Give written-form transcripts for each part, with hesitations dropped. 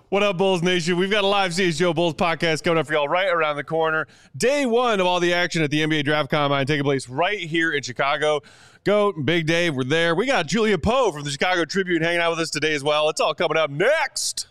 What up, Bulls Nation? We've got a live CHGO Bulls podcast coming up for y'all right around the corner. Day one of all the action at the NBA Draft Combine taking place right here in Chicago. Goat and Big Dave, we're there. We got Julia Poe from the Chicago Tribune hanging out with us today as well. It's all coming up next.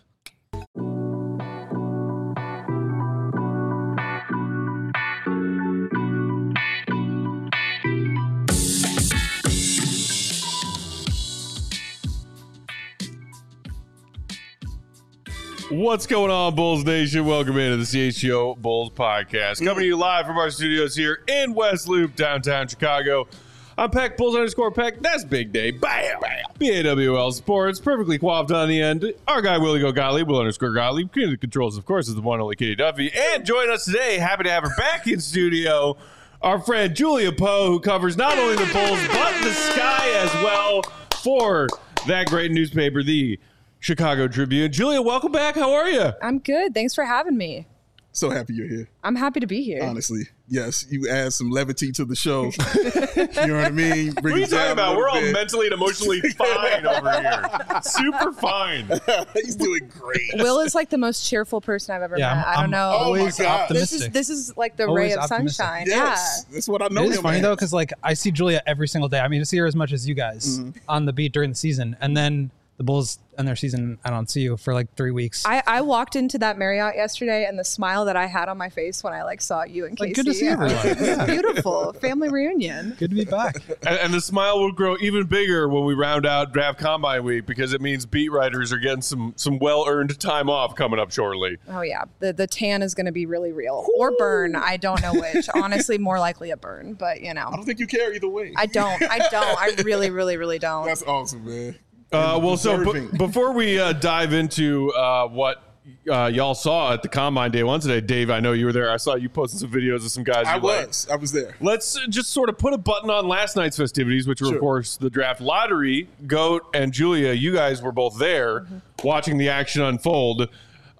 What's going on, Bulls Nation? Welcome into the CHGO Bulls podcast. Coming to you live from our studios here in West Loop, downtown Chicago. I'm Peck, Bulls_Peck. That's Big Day. Bam! BAWL Sports, perfectly coiffed on the end. Our guy, Willie Go Gottlieb, Will_Gottlieb. King of the controls, of course, is the one only Kitty Duffy. And join us today, happy to have her back in studio, our friend Julia Poe, who covers not only the Bulls, but the Sky as well for that great newspaper, the Chicago Tribune. Julia, welcome back. How are you? I'm good. Thanks for having me. So happy you're here. I'm happy to be here. Honestly, yes. You add some levity to the show. You know what I mean? What are you talking about? We're all mentally and emotionally fine over here. Super fine. He's doing great. Will is like the most cheerful person I've ever met. I don't know. Always optimistic. This is like the ray of sunshine. Yes. Yeah. That's what I know. It is funny though, because like I see Julia every single day. I mean, I see her as much as you guys on the beat during the season, and then the Bulls and their season, I don't see you for like 3 weeks. I walked into that Marriott yesterday, and the smile that I had on my face when I saw you and Casey. Good to see everyone. It's beautiful. Family reunion. Good to be back. And the smile will grow even bigger when we round out Draft Combine Week, because it means beat writers are getting some well-earned time off coming up shortly. Oh, yeah. The tan is going to be really real. Or burn. I don't know which. Honestly, more likely a burn, but you know. I don't think you care either way. I don't. I really, really, really don't. That's awesome, man. Before we dive into what y'all saw at the Combine Day one today, Dave, I know you were there. I saw you posting some videos of some guys. I was there. Let's just sort of put a button on last night's festivities, which were, of course, the draft lottery. Goat and Julia, you guys were both there watching the action unfold.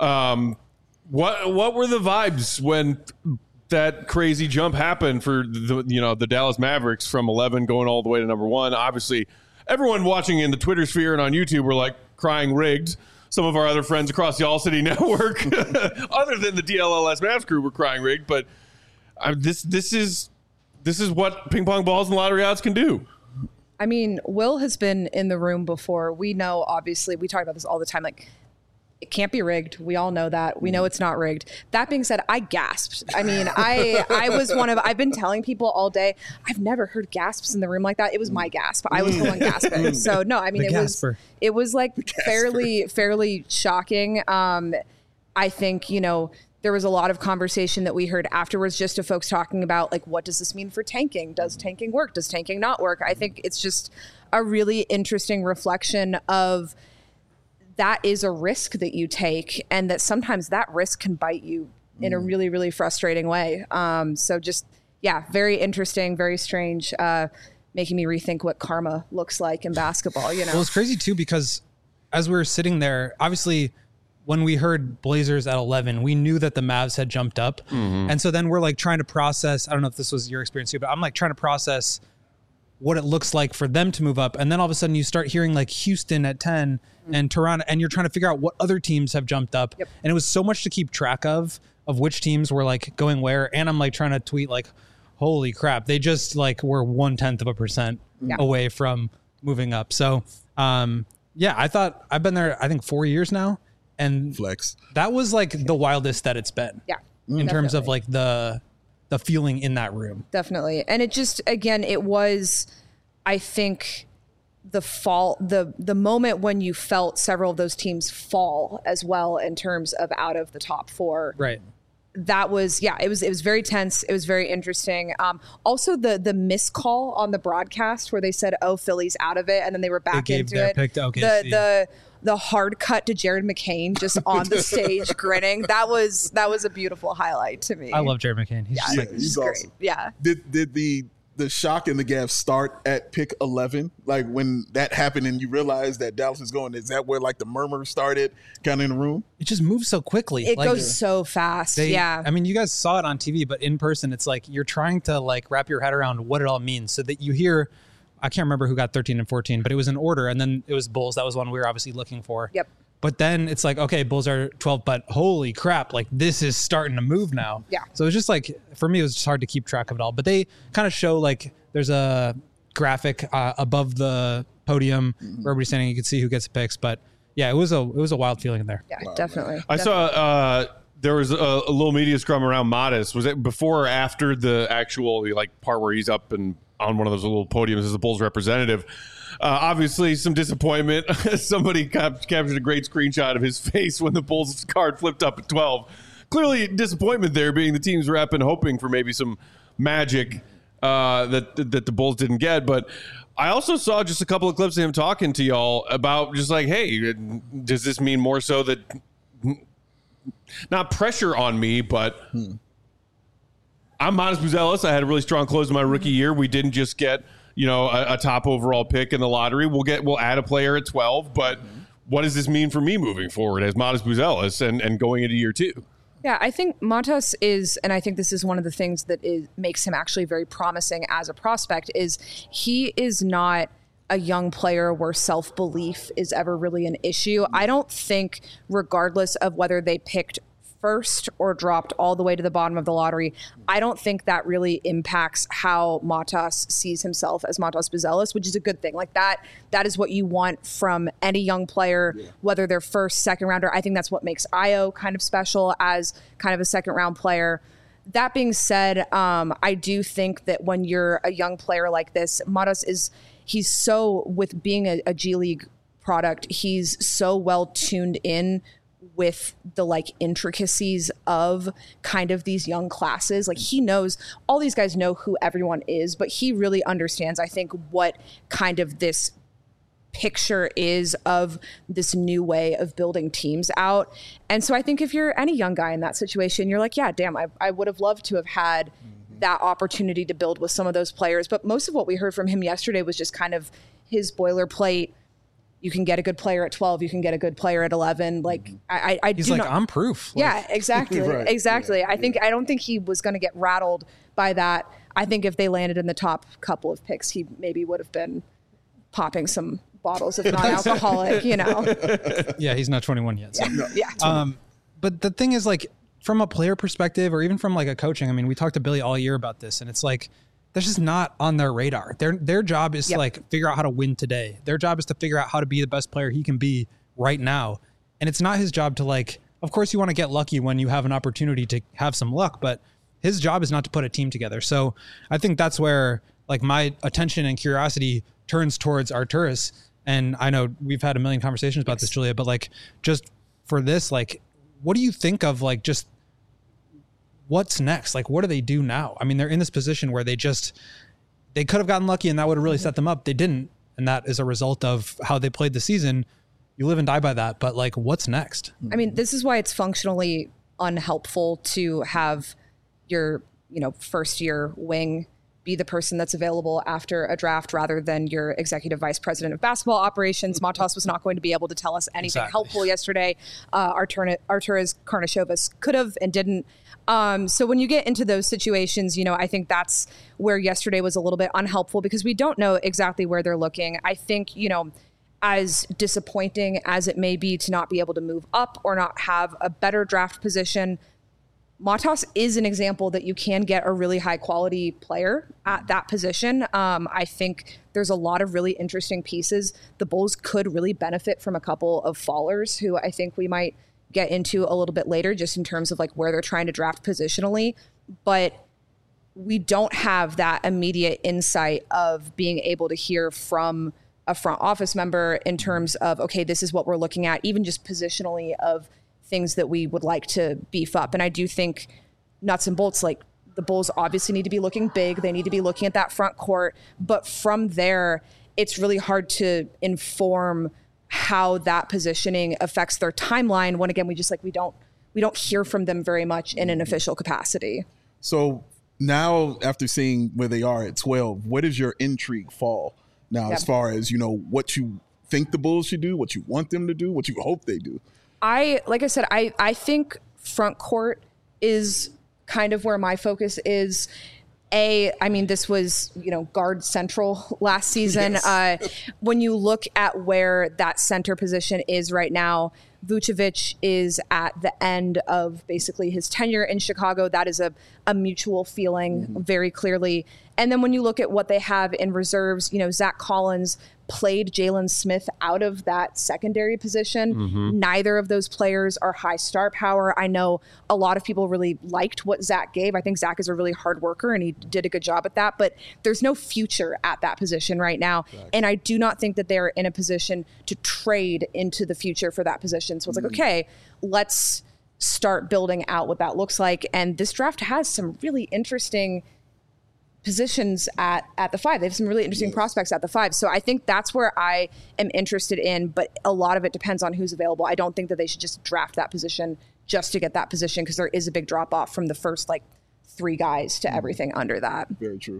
What were the vibes when that crazy jump happened for the Dallas Mavericks from 11 going all the way to number 1? Obviously, everyone watching in the Twitter sphere and on YouTube were like crying rigged. Some of our other friends across the All City Network, other than the DLLS Mavs crew, were crying rigged. But this is what ping pong balls and lottery odds can do. I mean, Will has been in the room before. We know, obviously, we talk about this all the time. Like, it can't be rigged. We all know that. We know it's not rigged. That being said, I gasped. I mean, I've been telling people all day, I've never heard gasps in the room like that. It was my gasp. I was the one gasping. So no, I mean, it was like fairly shocking. I think, there was a lot of conversation that we heard afterwards, just to folks talking about, like, what does this mean for tanking? Does tanking work? Does tanking not work? I think it's just a really interesting reflection of that is a risk that you take, and that sometimes that risk can bite you in a really, really frustrating way. So just, very interesting, very strange, making me rethink what karma looks like in basketball, Well, it's crazy too, because as we were sitting there, obviously when we heard Blazers at 11, we knew that the Mavs had jumped up. And so then we're like trying to process, I don't know if this was your experience too, but I'm like trying to process what it looks like for them to move up. And then all of a sudden you start hearing like Houston at 10 and Toronto, and you're trying to figure out what other teams have jumped up. Yep. And it was so much to keep track of which teams were like going where. And I'm like trying to tweet like, holy crap, they just like were 0.1% away from moving up. So I thought I've been there, I think 4 years now. And flex. That was like the wildest that it's been. Yeah. In terms of like the feeling in that room. Definitely. And it just, again, it was, I think, the moment when you felt several of those teams fall as well in terms of out of the top 4. Right. That was, it was very tense. It was very interesting. Also the miscall on the broadcast where they said, "Oh, Philly's out of it," and then they were back into it. Pick to OKC. The hard cut to Jared McCain just on the stage grinning. That was a beautiful highlight to me. I love Jared McCain. He's great. Awesome. Yeah. Did the shock and the gaffe start at pick 11? Like when that happened and you realized that Dallas is going, is that where like the murmur started kind of in the room? It just moves so quickly. It goes so fast. I mean, you guys saw it on TV, but in person, it's like you're trying to like wrap your head around what it all means so that you hear, I can't remember who got 13 and 14, but it was in order. And then it was Bulls. That was one we were obviously looking for. Yep. But then it's like, okay, Bulls are 12, but holy crap, like this is starting to move now. Yeah. So it's just like, for me, it was just hard to keep track of it all. But they kind of show like there's a graphic above the podium where everybody's standing. You can see who gets picks. But yeah, it was a wild feeling in there. Yeah, definitely. I saw there was a little media scrum around Modest. Was it before or after the actual like part where he's up and on one of those little podiums as the Bulls representative? Obviously, some disappointment. Somebody captured a great screenshot of his face when the Bulls card flipped up at 12. Clearly, disappointment there, being the team's rep and hoping for maybe some magic that the Bulls didn't get. But I also saw just a couple of clips of him talking to y'all about just like, hey, does this mean more so that not pressure on me, but I'm Modest Buzelis. I had a really strong close to my rookie year. We didn't just get a top overall pick in the lottery. We'll add a player at 12, but what does this mean for me moving forward as Modest Buzelis and going into year 2? Yeah, I think Matas is, and I think this is one of the things that makes him actually very promising as a prospect, is he is not a young player where self-belief is ever really an issue. I don't think, regardless of whether they picked first or dropped all the way to the bottom of the lottery, I don't think that really impacts how Matas sees himself as Matas Buzelis, which is a good thing. Like that is what you want from any young player, whether they're first, second rounder. I think that's what makes Ayo kind of special as kind of a second round player. That being said, I do think that when you're a young player like this, Matas he's so, with being a G League product, he's so well tuned in with the like intricacies of kind of these young classes. Like he knows, all these guys know who everyone is, but he really understands, I think, what kind of this picture is of this new way of building teams out. And so I think if you're any young guy in that situation, you're like, yeah, damn, I would have loved to have had that opportunity to build with some of those players. But most of what we heard from him yesterday was just kind of his boilerplate. You can get a good player at 12. You can get a good player at 11. Like He's like, I'm proof. Like, yeah, exactly. Right. Exactly. Yeah. I don't think he was going to get rattled by that. I think if they landed in the top couple of picks, he maybe would have been popping some bottles of non-alcoholic, Yeah, he's not 21 yet. So. Yeah. But the thing is, like, from a player perspective or even from like a coaching, I mean, we talked to Billy all year about this, and it's like, that's just not on their radar. Their job is to like figure out how to win today. Their job is to figure out how to be the best player he can be right now. And it's not his job to like, of course you want to get lucky when you have an opportunity to have some luck, but his job is not to put a team together. So I think that's where like my attention and curiosity turns towards Arturas. And I know we've had a million conversations about this, Julia, but like just for this, like, what do you think of like just what's next? Like, what do they do now? I mean, they're in this position where they could have gotten lucky and that would have really set them up. They didn't. And that is a result of how they played the season. You live and die by that. But like, what's next? I mean, this is why it's functionally unhelpful to have your, first year wing be the person that's available after a draft rather than your executive vice president of basketball operations. Matas was not going to be able to tell us anything helpful yesterday. Arturas Karnisovas could have and didn't. So when you get into those situations, I think that's where yesterday was a little bit unhelpful because we don't know exactly where they're looking. I think, as disappointing as it may be to not be able to move up or not have a better draft position, Matas is an example that you can get a really high quality player at that position. I think there's a lot of really interesting pieces. The Bulls could really benefit from a couple of fallers who I think we might get into a little bit later just in terms of like where they're trying to draft positionally. But we don't have that immediate insight of being able to hear from a front office member in terms of, okay, this is what we're looking at, even just positionally of things that we would like to beef up. And I do think nuts and bolts, like the Bulls obviously need to be looking big. They need to be looking at that front court. But from there, it's really hard to inform how that positioning affects their timeline when, again, we don't hear from them very much in an official capacity. So now after seeing where they are at 12, where does your intrigue fall now as far as, what you think the Bulls should do, what you want them to do, what you hope they do? Like I said, I think front court is kind of where my focus is. I mean, this was, guard central last season. Yes. When you look at where that center position is right now, Vucevic is at the end of basically his tenure in Chicago. That is a mutual feeling very clearly. And then when you look at what they have in reserves, Zach Collins played Jalen Smith out of that secondary position. Neither of those players are high star power. I know a lot of people really liked what Zach gave. I think Zach is a really hard worker and he did a good job at that, but there's no future at that position right now. Exactly. And I do not think that they're in a position to trade into the future for that position. So it's like, okay, let's start building out what that looks like. And this draft has some really interesting positions at the 5. They have some really interesting prospects at the 5. So I think that's where I am interested in, but a lot of it depends on who's available. I don't think that they should just draft that position just to get that position, because there is a big drop off from the first 3 guys to everything under that. Very true.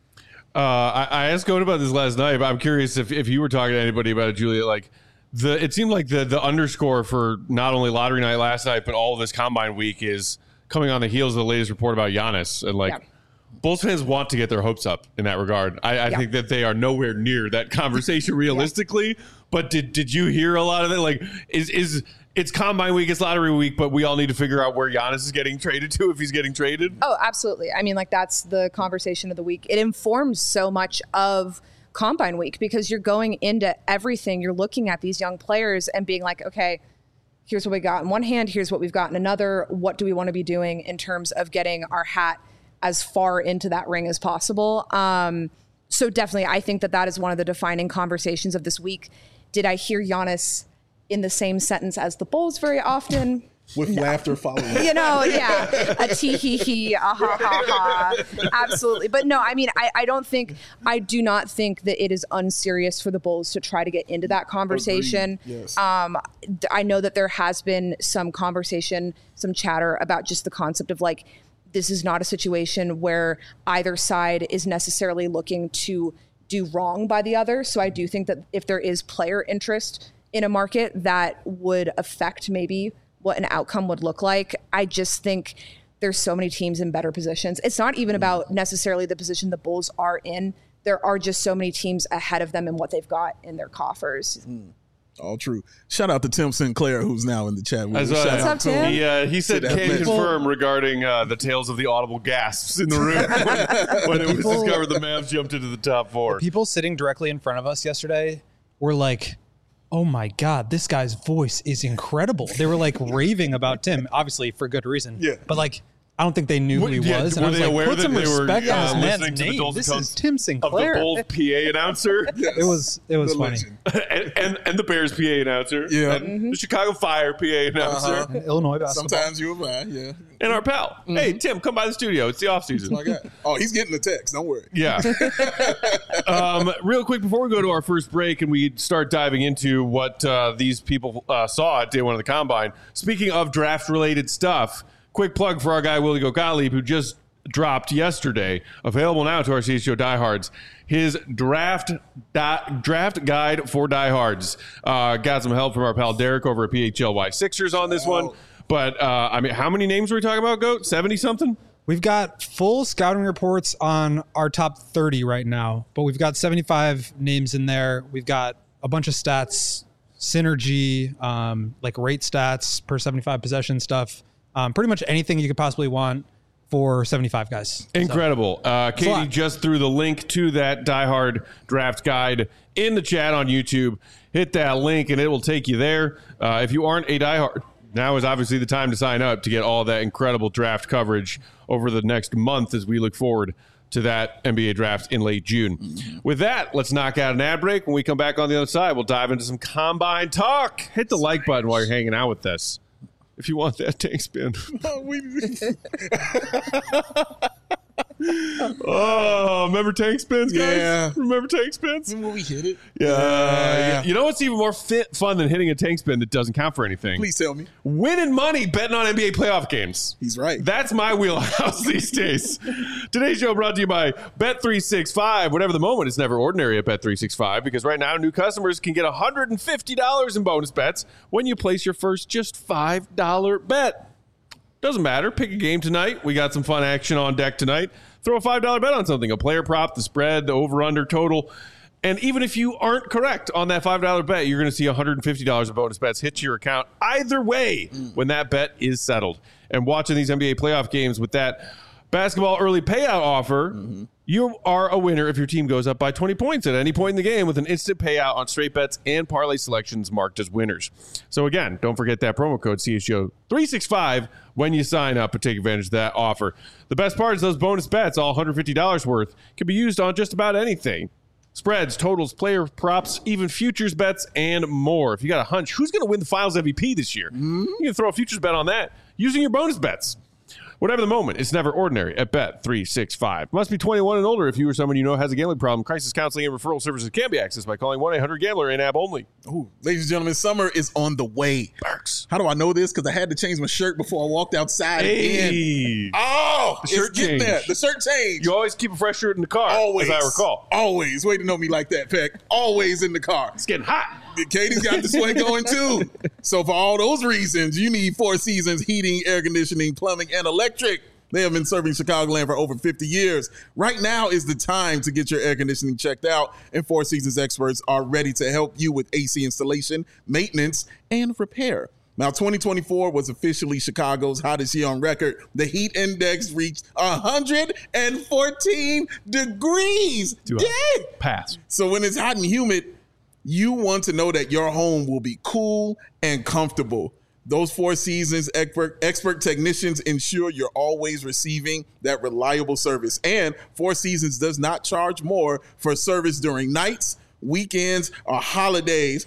I asked Cohen about this last night, but I'm curious if you were talking to anybody about it, Julia. It seemed like the underscore for not only lottery night last night, but all of this combine week is coming on the heels of the latest report about Giannis. And Bulls fans want to get their hopes up in that regard. I think that they are nowhere near that conversation realistically. But did you hear a lot of it? It's combine week, it's lottery week, but we all need to figure out where Giannis is getting traded to, if he's getting traded? Oh, absolutely. I mean, that's the conversation of the week. It informs so much of combine week because you're going into everything. You're looking at these young players and being like, okay, here's what we got in one hand. Here's what we've got in another. What do we want to be doing in terms of getting our hat as far into that ring as possible? So definitely, I think that is one of the defining conversations of this week. Did I hear Giannis in the same sentence as the Bulls very often? With laughter following. A tee hee hee, a ha ha ha. Absolutely. But no, I mean, I do not think that it is unserious for the Bulls to try to get into that conversation. Yes. I know that there has been some conversation, some chatter about just the concept of this is not a situation where either side is necessarily looking to do wrong by the other. So I do think that if there is player interest in a market, that would affect maybe what an outcome would look like. I just think there's so many teams in better positions. It's not even about necessarily the position the Bulls are in. There are just so many teams ahead of them and what they've got in their coffers. All true. Shout out to Tim Sinclair, who's now in the chat. What's up, Tim? He said can confirm regarding the tales of the audible gasps in the room when it was discovered the Mavs jumped into the top 4. People sitting directly in front of us yesterday were like, oh my God, this guy's voice is incredible. They were raving about Tim, obviously for good reason. Yeah. But I don't think they knew who he was. And were I was they like, aware put that some they were respect on this listening man's to the name. dulcet This tones is Tim of Sinclair. the Bulls PA announcer? Yes. It was funny. and the Bears PA announcer. Yeah. And the Chicago Fire PA announcer. And Illinois basketball. Sometimes you and I, yeah. And our pal. Hey, Tim, come by the studio. It's the off season. My God. Oh, he's getting the text. Don't worry. Yeah. Real quick, before we go to our first break and we start diving into what these people saw at day 1 of the Combine, speaking of draft-related stuff, quick plug for our guy, Willie Gottlieb, who just dropped yesterday, available now to our CHGO diehards, his draft guide for diehards. Got some help from our pal Derek over at PHLY Sixers on this one. But, I mean, how many names were we talking about, Goat? 70-something? We've got full scouting reports on our top 30 right now, but we've got 75 names in there. We've got a bunch of stats, synergy, rate stats per 75 possession stuff. Pretty much anything you could possibly want for 75 guys. Incredible. Katie just threw the link to that diehard draft guide in the chat on YouTube. Hit that link and it will take you there. If you aren't a diehard, now is obviously the time to sign up to get all that incredible draft coverage over the next month as we look forward to that NBA draft in late June. With that, let's knock out an ad break. When we come back on the other side, we'll dive into some Combine talk. Hit the like button while you're hanging out with us if you want that tank spin. Oh, remember tank spins, guys? Yeah. Remember tank spins? When we hit it? Yeah. You know what's even more fun than hitting a tank spin that doesn't count for anything? Please tell me. Winning money betting on NBA playoff games. He's right. That's my wheelhouse these days. Today's show brought to you by Bet365. Whatever the moment, it's never ordinary at Bet365 because right now new customers can get $150 in bonus bets when you place your first just $5 bet. Doesn't matter. Pick a game tonight. We got some fun action on deck tonight. Throw a $5 bet on something, a player prop, the spread, the over-under total. And even if you aren't correct on that $5 bet, you're going to see $150 of bonus bets hit to your account either way when that bet is settled. And watching these NBA playoff games with that basketball early payout offer, you are a winner if your team goes up by 20 points at any point in the game with an instant payout on straight bets and parlay selections marked as winners. So again, don't forget that promo code CHGO365 when you sign up and take advantage of that offer. The best part is those bonus bets, all $150 worth, can be used on just about anything. Spreads, totals, player props, even futures bets, and more. If you got a hunch, who's going to win the Finals MVP this year? You can throw a futures bet on that using your bonus bets. Whatever the moment, it's never ordinary at Bet365. Must be 21 and older if you or someone you know has a gambling problem. Crisis counseling and referral services can be accessed by calling 1-800-GAMBLER in-app only. Ooh, ladies and gentlemen, summer is on the way. Perks. How do I know this? Because I had to change my shirt before I walked outside again. Hey. Oh, The shirt it's getting change. there. The shirt change. You always keep a fresh shirt in the car, Always. as I recall. Always. Way to know me like that, Peck. Always in the car. It's getting hot. Katie's got the sweat going too. So for all those reasons, you need Four Seasons heating, air conditioning, plumbing, and electric. They have been serving Chicagoland for over 50 years. Right now is the time to get your air conditioning checked out, and Four Seasons experts are ready to help you with AC installation, maintenance, and repair. Now, 2024 was officially Chicago's hottest year on record. The heat index reached 114 degrees. Dang! Pass. So when it's hot and humid, you want to know that your home will be cool and comfortable. Those Four Seasons expert technicians ensure you're always receiving that reliable service. And Four Seasons does not charge more for service during nights, weekends, or holidays.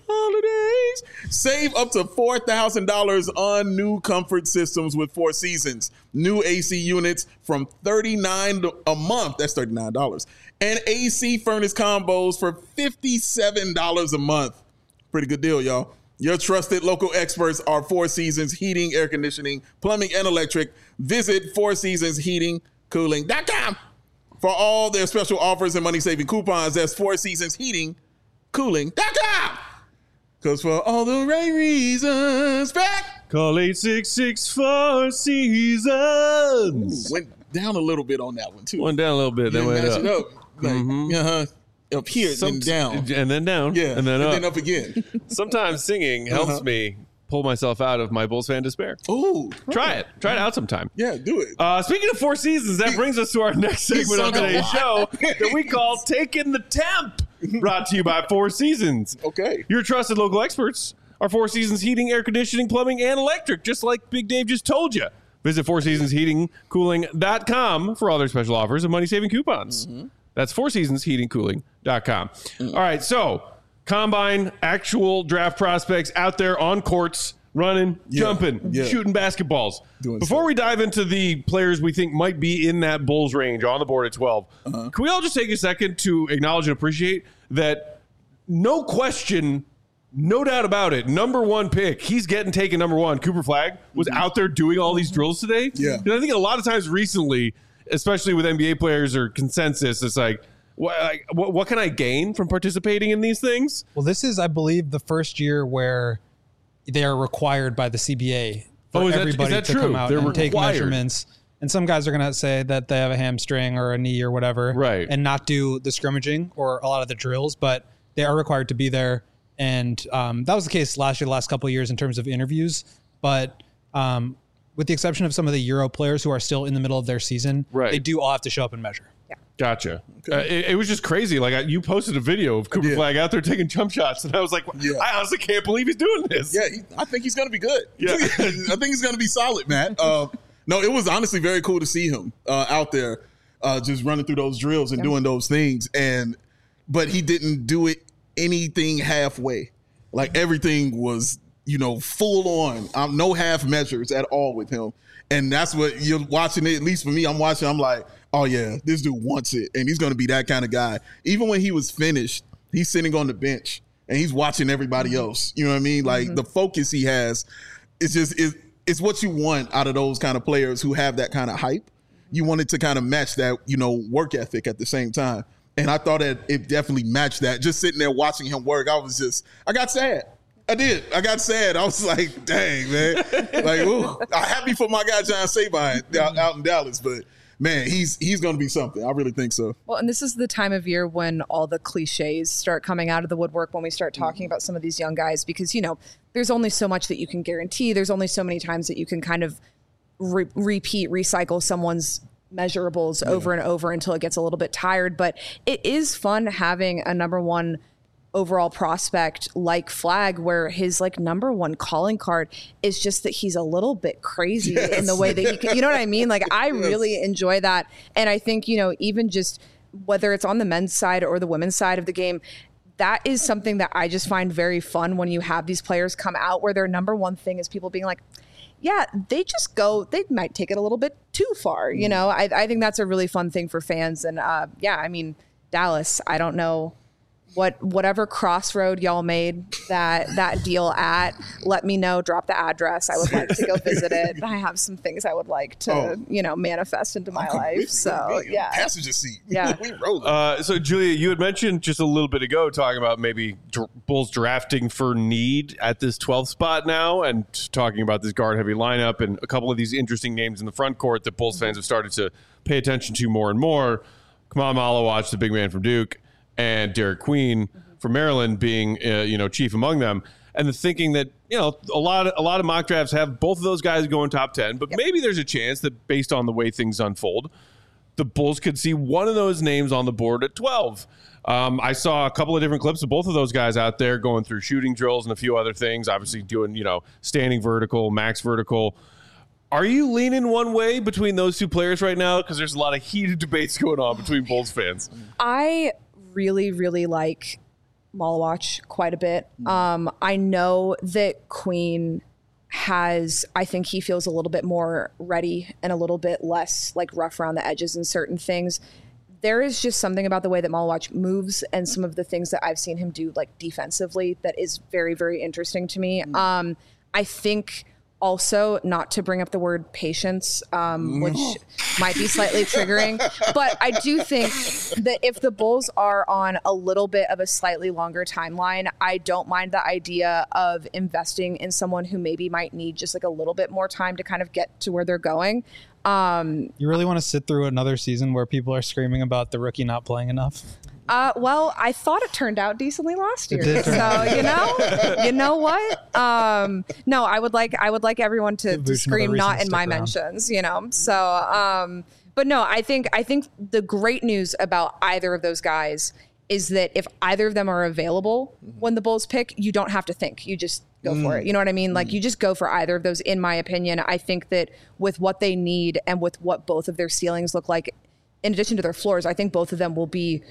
Save up to $4,000 on new comfort systems with Four Seasons. New AC units from $39 a month. That's $39. And AC furnace combos for $57 a month. Pretty good deal, y'all. Your trusted local experts are Four Seasons Heating, Air Conditioning, Plumbing, and Electric. Visit fourseasonsheatingcooling.com for all their special offers and money-saving coupons. That's fourseasonsheatingcooling.com. Because for all the right reasons, back. Call 866-4 Seasons. Went down a little bit on that one, too. Went down a little bit, then went Match up. it up. Like, up here, then down. And then down. Yeah, And then up. then up again. Sometimes singing helps me pull myself out of my Bulls fan despair. Ooh. Try it. Try it out sometime. Yeah, do it. Speaking of Four Seasons, that brings us to our next segment of today's show that we call Taking the Temp, brought to you by Four Seasons. Okay. Your trusted local experts are Four Seasons Heating, Air Conditioning, Plumbing, and Electric, just like Big Dave just told you. Visit fourseasonsheatingcooling.com for all their special offers and money-saving coupons. That's fourseasonsheatingcooling.com. All right, so combine, actual draft prospects out there on courts, running, jumping, shooting basketballs. Before we dive into the players we think might be in that Bulls range on the board at 12, can we all just take a second to acknowledge and appreciate that no question, no doubt about it, number one pick, he's getting taken number one. Cooper Flagg was out there doing all these drills today. Yeah. And I think a lot of times recently, especially with NBA players or consensus, it's like, what can I gain from participating in these things? Well, this is, I believe, the first year where they are required by the CBA for everybody to come out and take measurements. And some guys are going to say that they have a hamstring or a knee or whatever, right, and not do the scrimmaging or a lot of the drills, but they are required to be there. And that was the case last year, the last couple of years in terms of interviews. But with the exception of some of the Euro players who are still in the middle of their season, they do all have to show up and measure. Yeah. Gotcha. Okay. It was just crazy. Like you posted a video of Cooper Flagg out there taking jump shots, and I was like, I honestly can't believe he's doing this. Yeah, I think he's going to be good. Yeah. I think he's going to be solid, man. No, it was honestly very cool to see him out there just running through those drills and doing those things. But he didn't do it anything halfway. Like everything was, full on. No half measures at all with him. And that's what you're watching it. At least for me, I'm watching. I'm like, oh yeah, this dude wants it. And he's going to be that kind of guy. Even when he was finished, he's sitting on the bench and he's watching everybody else. You know what I mean? Like the focus he has, it's what you want out of those kind of players who have that kind of hype. You want it to kind of match that, work ethic at the same time. And I thought that it definitely matched that. Just sitting there watching him work, I got sad. I did. I got sad. I was like, dang, man. Like, ooh, I'm happy for my guy John Sabine out in Dallas. But, man, he's going to be something. I really think so. Well, and this is the time of year when all the cliches start coming out of the woodwork when we start talking about some of these young guys, because, there's only so much that you can guarantee. There's only so many times that you can kind of recycle someone's measurables over and over until it gets a little bit tired. But it is fun having a number one overall prospect like Flag, where his number one calling card is just that he's a little bit crazy in the way that he can, you know what I mean? I really enjoy that. And I think, even just whether it's on the men's side or the women's side of the game, that is something that I just find very fun when you have these players come out where their number one thing is people being like, yeah, they might take it a little bit too far. I think that's a really fun thing for fans. And Dallas, I don't know whatever crossroad y'all made that deal at, let me know, drop the address. I would like to go visit it. I have some things I would like to, manifest into my life. So yeah. Passenger seat. Yeah. We rolling. So Julia, you had mentioned just a little bit ago talking about maybe Bulls drafting for need at this 12th spot now, and talking about this guard heavy lineup and a couple of these interesting names in the front court that Bulls fans have started to pay attention to more and more. Kamal Malawach, the big man from Duke, and Derek Queen from Maryland being, chief among them. And the thinking that, a lot of mock drafts have both of those guys going top 10, but maybe there's a chance that based on the way things unfold, the Bulls could see one of those names on the board at 12. I saw a couple of different clips of both of those guys out there going through shooting drills and a few other things, obviously doing, standing vertical, max vertical. Are you leaning one way between those two players right now? Because there's a lot of heated debates going on between Bulls fans. I really, really like Malawach quite a bit. I know that Queen I think he feels a little bit more ready and a little bit less rough around the edges in certain things. There is just something about the way that Malawach moves and some of the things that I've seen him do defensively that is very, very interesting to me. I think also, not to bring up the word patience, which might be slightly triggering, but I do think that if the Bulls are on a little bit of a slightly longer timeline, I don't mind the idea of investing in someone who maybe might need just a little bit more time to kind of get to where they're going. You really want to sit through another season where people are screaming about the rookie not playing enough? Well, I thought it turned out decently last year. So, you know what? No, I would like everyone to scream not in my mentions, So, but no, I think the great news about either of those guys is that if either of them are available when the Bulls pick, you don't have to think. You just go for it. You know what I mean? You just go for either of those, in my opinion. I think that with what they need and with what both of their ceilings look like, in addition to their floors, I think both of them will be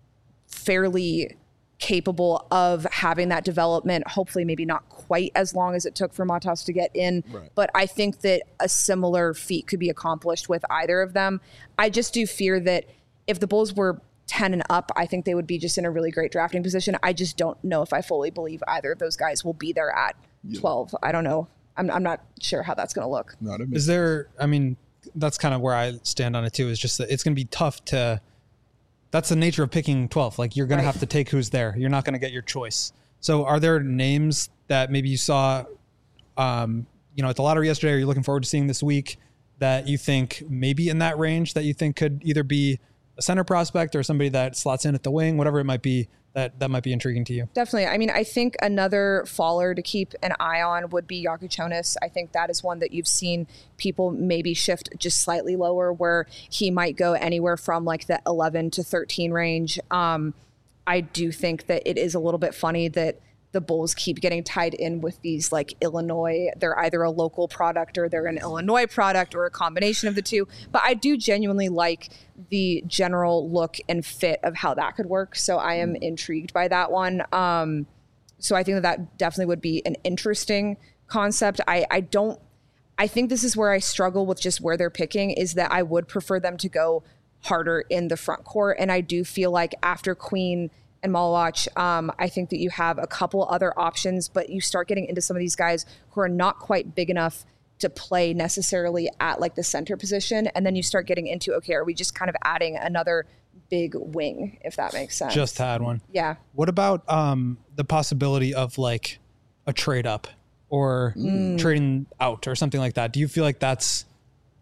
fairly capable of having that development, hopefully maybe not quite as long as it took for Matas to get in. Right. But I think that a similar feat could be accomplished with either of them. I just do fear that if the Bulls were 10 and up, I think they would be just in a really great drafting position. I just don't know if I fully believe either of those guys will be there at 12. I don't know. I'm not sure how that's going to look. Is there, that's kind of where I stand on it too, is just that it's going to be tough to, that's the nature of picking 12. You're going to have to take who's there. You're not going to get your choice. So are there names that maybe you saw, at the lottery yesterday, or you're looking forward to seeing this week, that you think maybe in that range that you think could either be a center prospect or somebody that slots in at the wing, whatever it might be, that might be intriguing to you? Definitely. I think another faller to keep an eye on would be Yakuchonis. I think that is one that you've seen people maybe shift just slightly lower, where he might go anywhere from the 11 to 13 range. I do think that it is a little bit funny that the Bulls keep getting tied in with these Illinois. They're either a local product or they're an Illinois product or a combination of the two. But I do genuinely like the general look and fit of how that could work. So I am intrigued by that one. So I think that definitely would be an interesting concept. I think this is where I struggle with just where they're picking, is that I would prefer them to go harder in the front court. And I do feel like after Queen and Malawach, I think that you have a couple other options, but you start getting into some of these guys who are not quite big enough to play necessarily at the center position. And then you start getting into, okay, are we just kind of adding another big wing, if that makes sense? Just to add one. Yeah. What about the possibility of a trade up or trading out or something like that? Do you feel like that's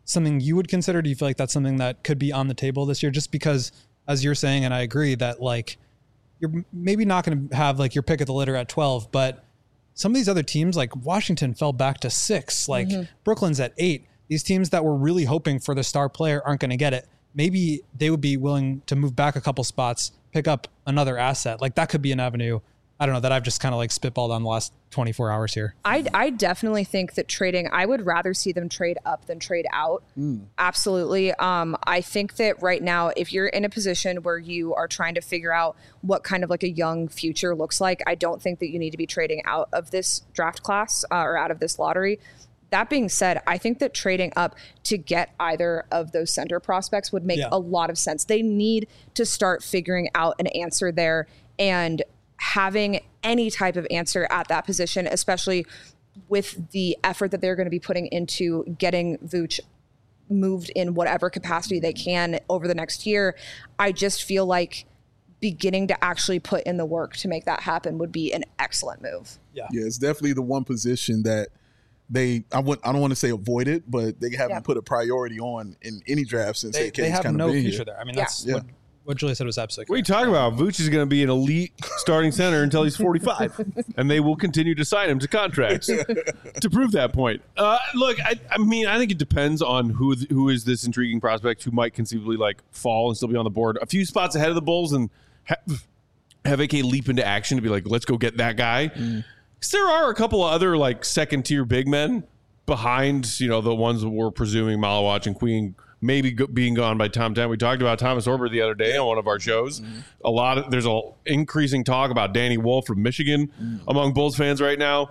something you would consider? Do you feel like that's something that could be on the table this year? Just because, as you're saying, and I agree that like you're maybe not going to have like your pick of the litter at 12, but some of these other teams like Washington fell back to 6, like Brooklyn's at 8. These teams that were really hoping for the star player aren't going to get it. Maybe they would be willing to move back a couple spots, pick up another asset. Like that could be an avenue. I don't know, that I've just kind of like spitballed on the last 24 hours here. I definitely think that trading, I would rather see them trade up than trade out. Absolutely. I think that right now, if you're in a position where you are trying to figure out what kind of like a young future looks like, I don't think that you need to be trading out of this draft class or out of this lottery. That being said, I think that trading up to get either of those center prospects would make a lot of sense. They need to start figuring out an answer there, and having any type of answer at that position, especially with the effort that they're going to be putting into getting Vooch moved in whatever capacity they can over the next year. I just feel like beginning to actually put in the work to make that happen would be an excellent move. Yeah, it's definitely the one position that I don't want to say avoided, but they haven't put a priority on in any draft since they have no future there. I mean, that's what Julia said was absolutely correct. What are you talking about? Vooch is going to be an elite starting center until he's 45, and they will continue to sign him to contracts to prove that point. Look, I mean, I think it depends on who is this intriguing prospect who might conceivably like fall and still be on the board a few spots ahead of the Bulls and have AK leap into action to be like, let's go get that guy. Because there are a couple of other like second tier big men behind, you know, the ones that we're presuming Malawach and Queen maybe being gone by Tom 10. We talked about Thomas Orber the other day on one of our shows. There's a increasing talk about Danny Wolf from Michigan among Bulls fans right now.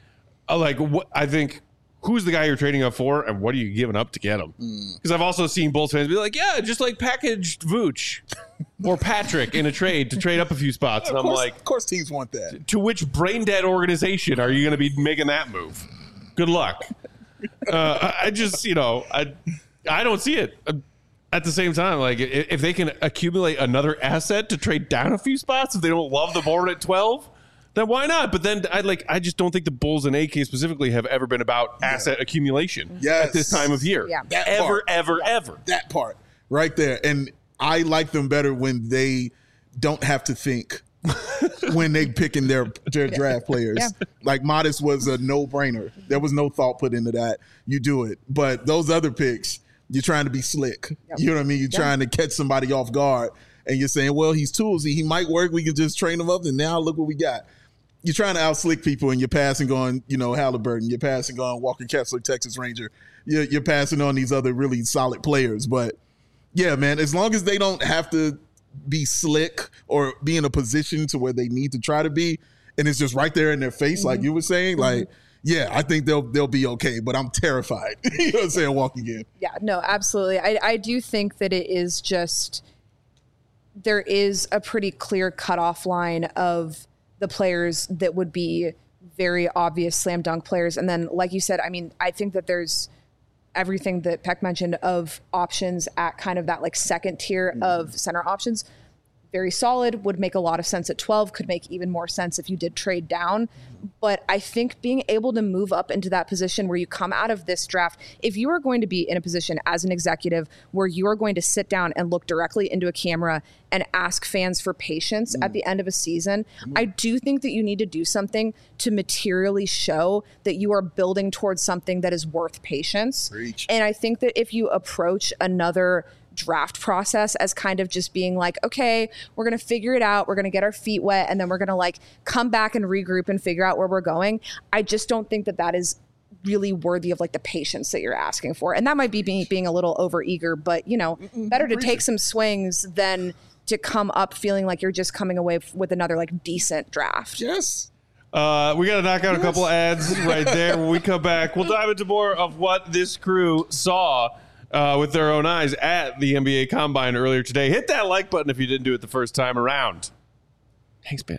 I think, who's the guy you're trading up for, and what are you giving up to get him? Because I've also seen Bulls fans be like, yeah, just like packaged Vooch or Patrick in a trade to trade up a few spots. And I'm like, of course teams want that. To which brain dead organization are you going to be making that move? Good luck. I just, you know, I don't see it. At the same time, like if they can accumulate another asset to trade down a few spots, if they don't love the board at 12, then why not? But then I just don't think the Bulls and AK specifically have ever been about asset accumulation at this time of year. Yeah. Ever. That part right there. And I like them better when they don't have to think when they picking their draft players. Like Modest was a no-brainer. There was no thought put into that. You do it. But those other picks, you're trying to be slick. You know what I mean? You're trying to catch somebody off guard, and you're saying, well, he's toolsy. He might work. We can just train him up, and now look what we got. You're trying to out-slick people, and you're passing on, you know, Halliburton. You're passing on Walker Kessler, Texas Ranger. You're passing on these other really solid players. But, yeah, man, as long as they don't have to be slick or be in a position to where they need to try to be, and it's just right there in their face, like you were saying, like, yeah, I think they'll be okay, but I'm terrified. You know what I'm saying? Walking in. Yeah, no, absolutely. I do think that it is just, there is a pretty clear cutoff line of the players that would be very obvious slam dunk players. And then, like you said, I mean, I think that there's everything that Peck mentioned of options at kind of that like second tier of center options. Very solid, would make a lot of sense at 12, could make even more sense if you did trade down. But I think being able to move up into that position where you come out of this draft, if you are going to be in a position as an executive where you are going to sit down and look directly into a camera and ask fans for patience at the end of a season, I do think that you need to do something to materially show that you are building towards something that is worth patience. Preach. And I think that if you approach another draft process as kind of just being like, okay, we're going to figure it out. We're going to get our feet wet. And then we're going to like come back and regroup and figure out where we're going. I just don't think that that is really worthy of like the patience that you're asking for. And that might be being a little overeager, but you know, better to take some swings than to come up feeling like you're just coming away with another like decent draft. Yes. We got to knock out a couple ads right there. When we come back, we'll dive into more of what this crew saw with their own eyes at the NBA Combine earlier today. Hit that like button if you didn't do it the first time around. Thanks, man.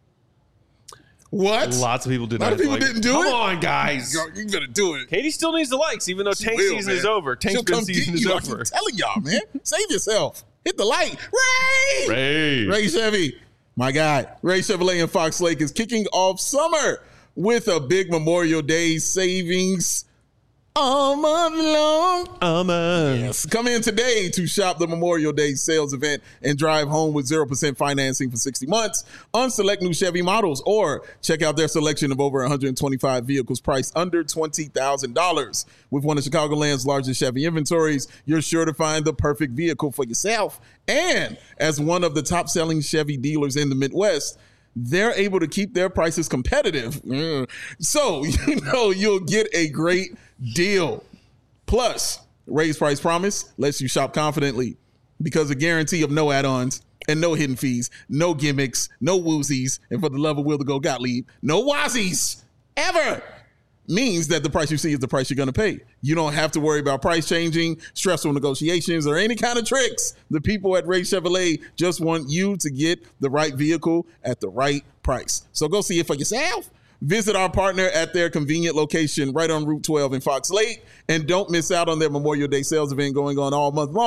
What? Lots of people did not. A lot of people didn't do it? Come on, guys. You better do it. Katie still needs the likes, even though tank season is over. Tank spin season is over. I'm telling y'all, man. Save yourself. Hit the like. Ray Chevy. My guy. Ray Chevrolet in Fox Lake is kicking off summer with a big Memorial Day savings all month long. Man. Yes. Come in today to shop the Memorial Day sales event and drive home with 0% financing for 60 months on select new Chevy models, or check out their selection of over 125 vehicles priced under $20,000. With one of Chicagoland's largest Chevy inventories, you're sure to find the perfect vehicle for yourself. And as one of the top selling Chevy dealers in the Midwest, they're able to keep their prices competitive. So, you'll get a great deal. Plus, Raised Price Promise lets you shop confidently because a guarantee of no add-ons and no hidden fees, no gimmicks, no woozies, and for the love of Will to go Gottlieb, no wazies ever means that the price you see is the price you're going to pay. You don't have to worry about price changing, stressful negotiations, or any kind of tricks. The people at Ray Chevrolet just want you to get the right vehicle at the right price. So go see it for yourself. Visit our partner at their convenient location right on Route 12 in Fox Lake. And don't miss out on their Memorial Day sales event going on all month,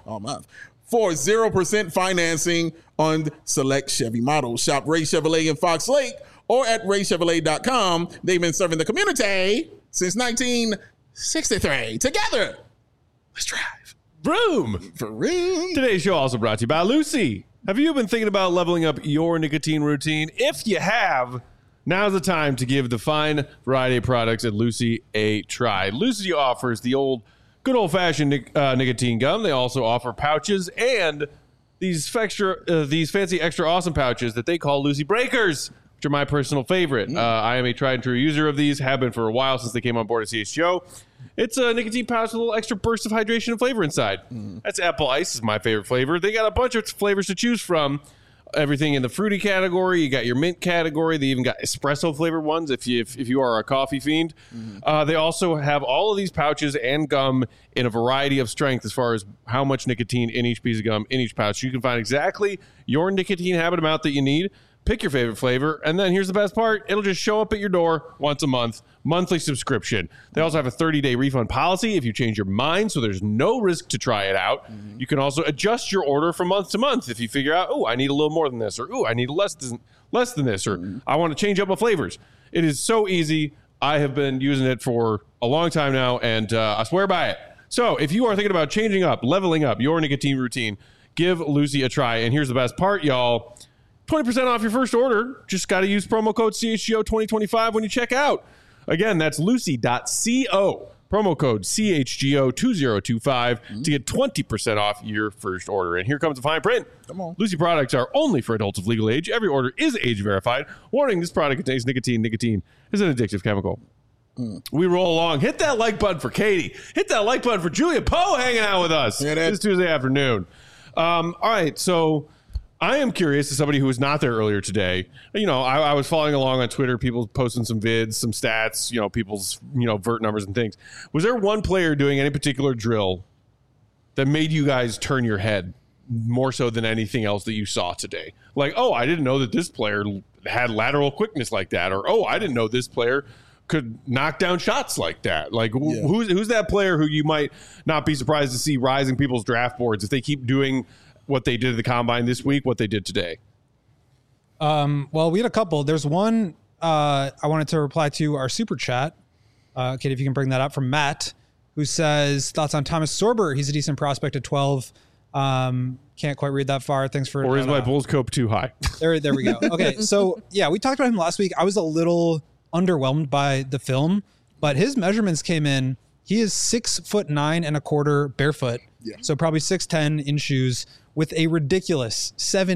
for 0% financing on select Chevy models. Shop Ray Chevrolet in Fox Lake or at raychevrolet.com. They've been serving the community since 1963. Together, let's drive. Vroom. For real. Today's show also brought to you by Lucy. Have you been thinking about leveling up your nicotine routine? If you have, now's the time to give the fine variety of products at Lucy a try. Lucy offers the good old-fashioned nicotine gum. They also offer pouches and these fancy extra awesome pouches that they call Lucy Breakers, which are my personal favorite. I am a tried and true user of these, have been for a while since they came on board at CHGO. It's a nicotine pouch with a little extra burst of hydration and flavor inside. That's apple ice is my favorite flavor. They got a bunch of flavors to choose from. Everything in the fruity category. You got your mint category. They even got espresso flavored ones if you are a coffee fiend. They also have all of these pouches and gum in a variety of strength as far as how much nicotine in each piece of gum, in each pouch. You can find exactly your nicotine habit amount that you need. Pick your favorite flavor, and then here's the best part. It'll just show up at your door once a month, monthly subscription. They also have a 30-day refund policy if you change your mind, so there's no risk to try it out. You can also adjust your order from month to month if you figure out, I need a little more than this, or, I need less than this, or I want to change up my flavors. It is so easy. I have been using it for a long time now, and I swear by it. So if you are thinking about changing up, leveling up your nicotine routine, give Lucy a try. And here's the best part, y'all. 20% off your first order. Just got to use promo code CHGO2025 when you check out. Again, that's lucy.co. Promo code CHGO2025 to get 20% off your first order. And here comes the fine print. Come on. Lucy products are only for adults of legal age. Every order is age verified. Warning, this product contains nicotine. Nicotine is an addictive chemical. We roll along. Hit that like button for Katie. Hit that like button for Julia Poe hanging out with us this Tuesday afternoon. All right, so I am curious, as somebody who was not there earlier today, I was following along on Twitter, people posting some vids, some stats, people's, vert numbers and things. Was there one player doing any particular drill that made you guys turn your head more so than anything else that you saw today? Like, I didn't know that this player had lateral quickness like that. Or, I didn't know this player could knock down shots like that. Like, who's that player who you might not be surprised to see rising people's draft boards if they keep doing what they did at the combine this week, what they did today? Well, we had a couple. There's one I wanted to reply to our super chat. Kate, if you can bring that up, from Matt, who says thoughts on Thomas Sorber. He's a decent prospect at 12. Can't quite read that far. Thanks for. Or is my Bulls cope too high? There we go. Okay, so yeah, we talked about him last week. I was a little underwhelmed by the film, but his measurements came in. He is 6'9.25" barefoot. Yeah. So probably 6'10" in shoes, with a ridiculous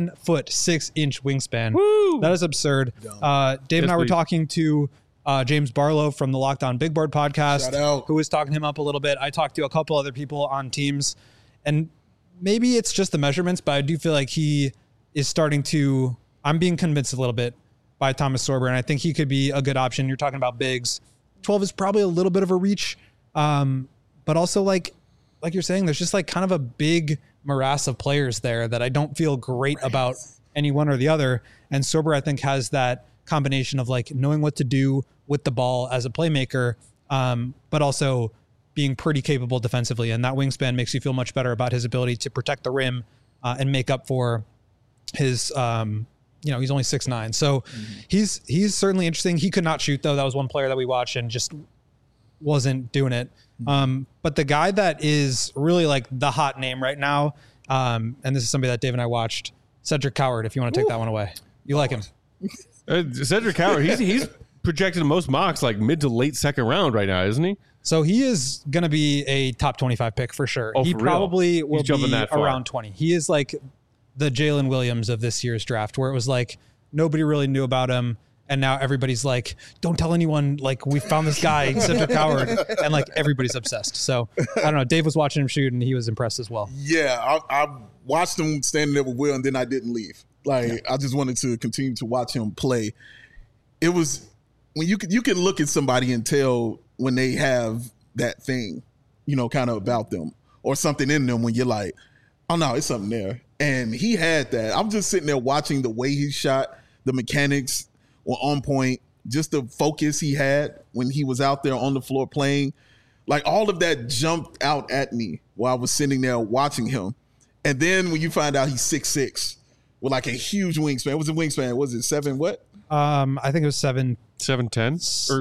7'6" wingspan. Woo! That is absurd. Dave and I were talking to James Barlow from the Locked On Big Board podcast, who was talking him up a little bit. I talked to a couple other people on teams, and maybe it's just the measurements, but I do feel like he is starting to, I'm being convinced a little bit by Thomas Sorber, and I think he could be a good option. You're talking about bigs. 12 is probably a little bit of a reach, but also like you're saying, there's just like kind of a big morass of players there that I don't feel great about any one or the other. And Sorber, I think, has that combination of like knowing what to do with the ball as a playmaker, but also being pretty capable defensively. And that wingspan makes you feel much better about his ability to protect the rim and make up for his, he's only 6'9". So he's certainly interesting. He could not shoot, though. That was one player that we watched and just wasn't doing it. But the guy that is really like the hot name right now, and this is somebody that Dave and I watched, Cedric Coward, if you want to take that one away. You like him. Cedric Coward, he's projected the most mocks like mid to late second round right now, isn't he? So he is going to be a top 25 pick for sure. Oh, he for probably real? will He's jumping be that far. around 20. He is like the Jalen Williams of this year's draft, where it was like nobody really knew about him. And now everybody's like, don't tell anyone, like, we found this guy, Cedric Coward. And like everybody's obsessed. So I don't know. Dave was watching him shoot and he was impressed as well. Yeah, I watched him standing there with Will, and then I didn't leave. Like, I just wanted to continue to watch him play. It was when you can look at somebody and tell when they have that thing, you know, kind of about them or something in them when you're like, oh no, it's something there. And he had that. I'm just sitting there watching the way he shot, the mechanics were on point, just the focus he had when he was out there on the floor playing. Like, all of that jumped out at me while I was sitting there watching him. And then when you find out he's 6'6", with like a huge wingspan. What was the wingspan? Was it 7 what? I think it was 7'10" or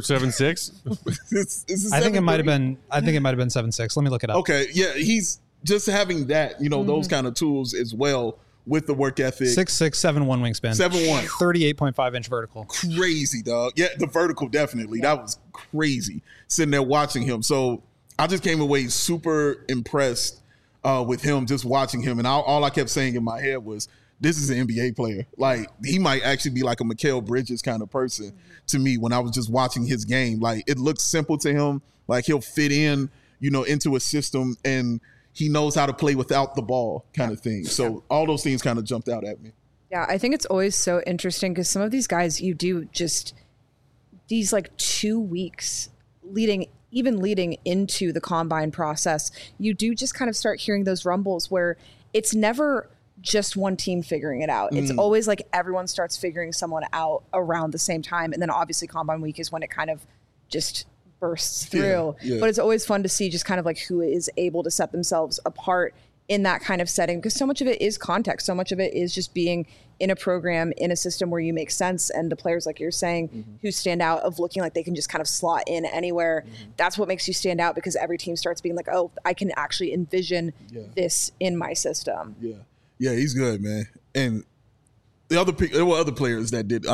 7'6". I think it might have been 7'6". Let me look it up. Okay, yeah, he's just having that, you know, those kind of tools as well with the work ethic. 6'6", 7'1" wingspan. 7'1". 38.5 inch vertical. Crazy, dog. Yeah, the vertical, definitely. That was crazy sitting there watching him. So I just came away super impressed with him, just watching him. And all I kept saying in my head was, this is an NBA player. Like, he might actually be like a Mikal Bridges kind of person to me when I was just watching his game. Like, it looks simple to him. Like, he'll fit in, you know, into a system, and he knows how to play without the ball kind of thing. So all those things kind of jumped out at me. Yeah, I think it's always so interesting because some of these guys, you do just these like 2 weeks leading into the combine process, you do just kind of start hearing those rumbles where it's never just one team figuring it out. It's always like everyone starts figuring someone out around the same time. And then obviously combine week is when it kind of just bursts through. Yeah. But it's always fun to see just kind of like who is able to set themselves apart in that kind of setting, because so much of it is context. So much of it is just being in a program, in a system where you make sense. And the players, like you're saying, who stand out of looking like they can just kind of slot in anywhere. That's what makes you stand out, because every team starts being like, oh, I can actually envision this in my system. Yeah, he's good, man. And there were other players that did.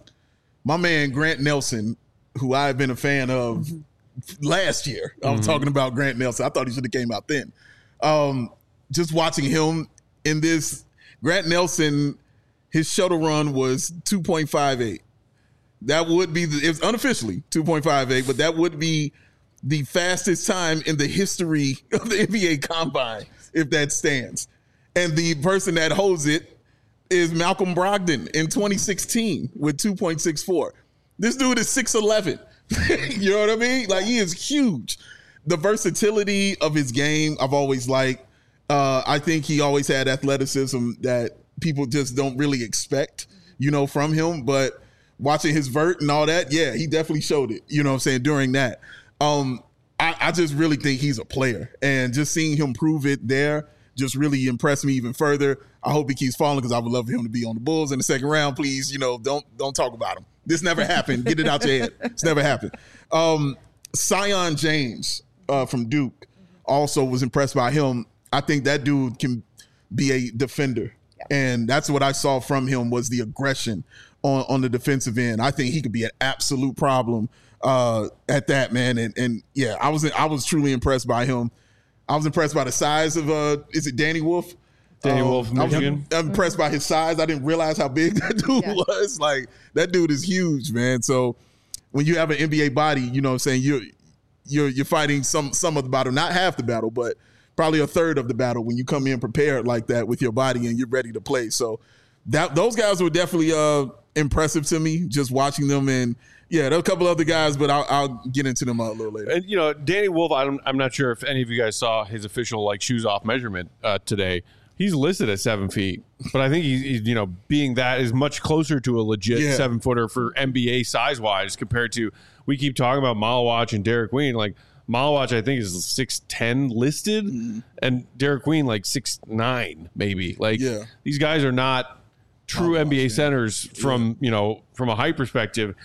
My man Grant Nelson, who I've been a fan of last year. I'm talking about Grant Nelson. I thought he should have came out then. Just watching him in this, Grant Nelson, his shuttle run was 2.58. That would be, it was unofficially 2.58, but that would be the fastest time in the history of the NBA Combine, if that stands. And the person that holds it is Malcolm Brogdon in 2016 with 2.64. This dude is 6'11". You know what I mean? Like, he is huge. The versatility of his game, I've always liked. I think he always had athleticism that people just don't really expect, you know, from him. But watching his vert and all that, yeah, he definitely showed it, you know what I'm saying, during that. I just really think he's a player. And just seeing him prove it there just really impressed me even further. I hope he keeps falling, because I would love for him to be on the Bulls in the second round. Please, you know, don't talk about him. This never happened. Get it out your head. It's never happened. Zion James from Duke, also was impressed by him. I think that dude can be a defender. And that's what I saw from him, was the aggression on the defensive end. I think he could be an absolute problem at that, man. And yeah, I was truly impressed by him. I was impressed by the size of, is it Danny Wolf? Danny Wolf, Michigan. I'm impressed by his size. I didn't realize how big that dude was. Like, that dude is huge, man. So when you have an NBA body, you know what I'm saying, you're fighting some of the battle, not half the battle, but probably a third of the battle when you come in prepared like that with your body and you're ready to play. So those guys were definitely impressive to me, just watching them. And yeah, there are a couple other guys, but I'll get into them a little later. And, you know, Danny Wolf, I'm not sure if any of you guys saw his official, like, shoes off measurement today. He's listed at 7 feet, but I think he's, you know, being that is much closer to a legit 7-footer for NBA size-wise compared to, we keep talking about Malawach and Derek Queen. Like, Malawach, I think, is 6'10" listed, and Derek Queen, like, 6'9", maybe. Like, these guys are not true NBA centers from, you know, from a height perspective.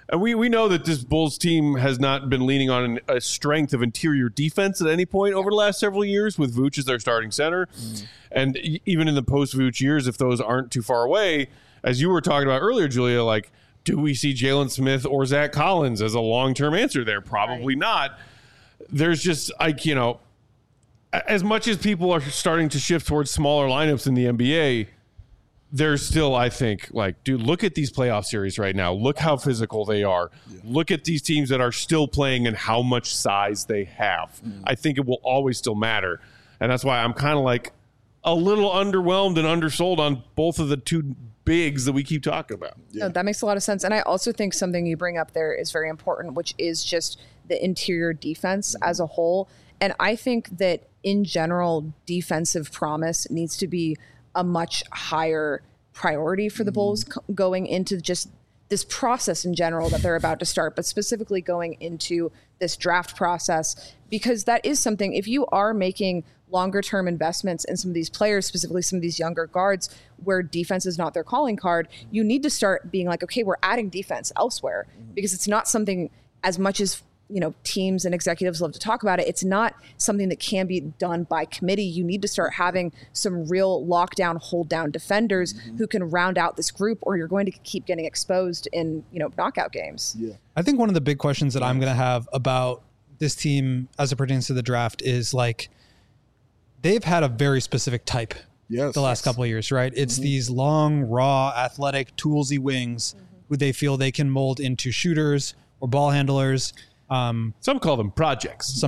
And we know that this Bulls team has not been leaning on a strength of interior defense at any point over the last several years with Vooch as their starting center. And even in the post-Vooch years, if those aren't too far away, as you were talking about earlier, Julia, like, do we see Jalen Smith or Zach Collins as a long-term answer there? Probably not. There's just, like, you know, as much as people are starting to shift towards smaller lineups in the NBA, there's still, I think, like, dude, look at these playoff series right now. Look how physical they are. Look at these teams that are still playing and how much size they have. I think it will always still matter. And that's why I'm kind of like a little underwhelmed and undersold on both of the two bigs that we keep talking about. No, that makes a lot of sense. And I also think something you bring up there is very important, which is just the interior defense as a whole. And I think that in general, defensive promise needs to be a much higher priority for the Bulls going into just this process in general that they're about to start, but specifically going into this draft process, because that is something, if you are making longer term investments in some of these players, specifically some of these younger guards where defense is not their calling card, you need to start being like, okay, we're adding defense elsewhere, because it's not something, as much as, you know, teams and executives love to talk about it, it's not something that can be done by committee. You need to start having some real lockdown, hold down defenders who can round out this group, or you're going to keep getting exposed in, you know, knockout games. Yeah. I think one of the big questions that I'm going to have about this team as it pertains to the draft is, like, they've had a very specific type the last couple of years, right? It's these long, raw, athletic, toolsy wings who they feel they can mold into shooters or ball handlers. Some call them projects.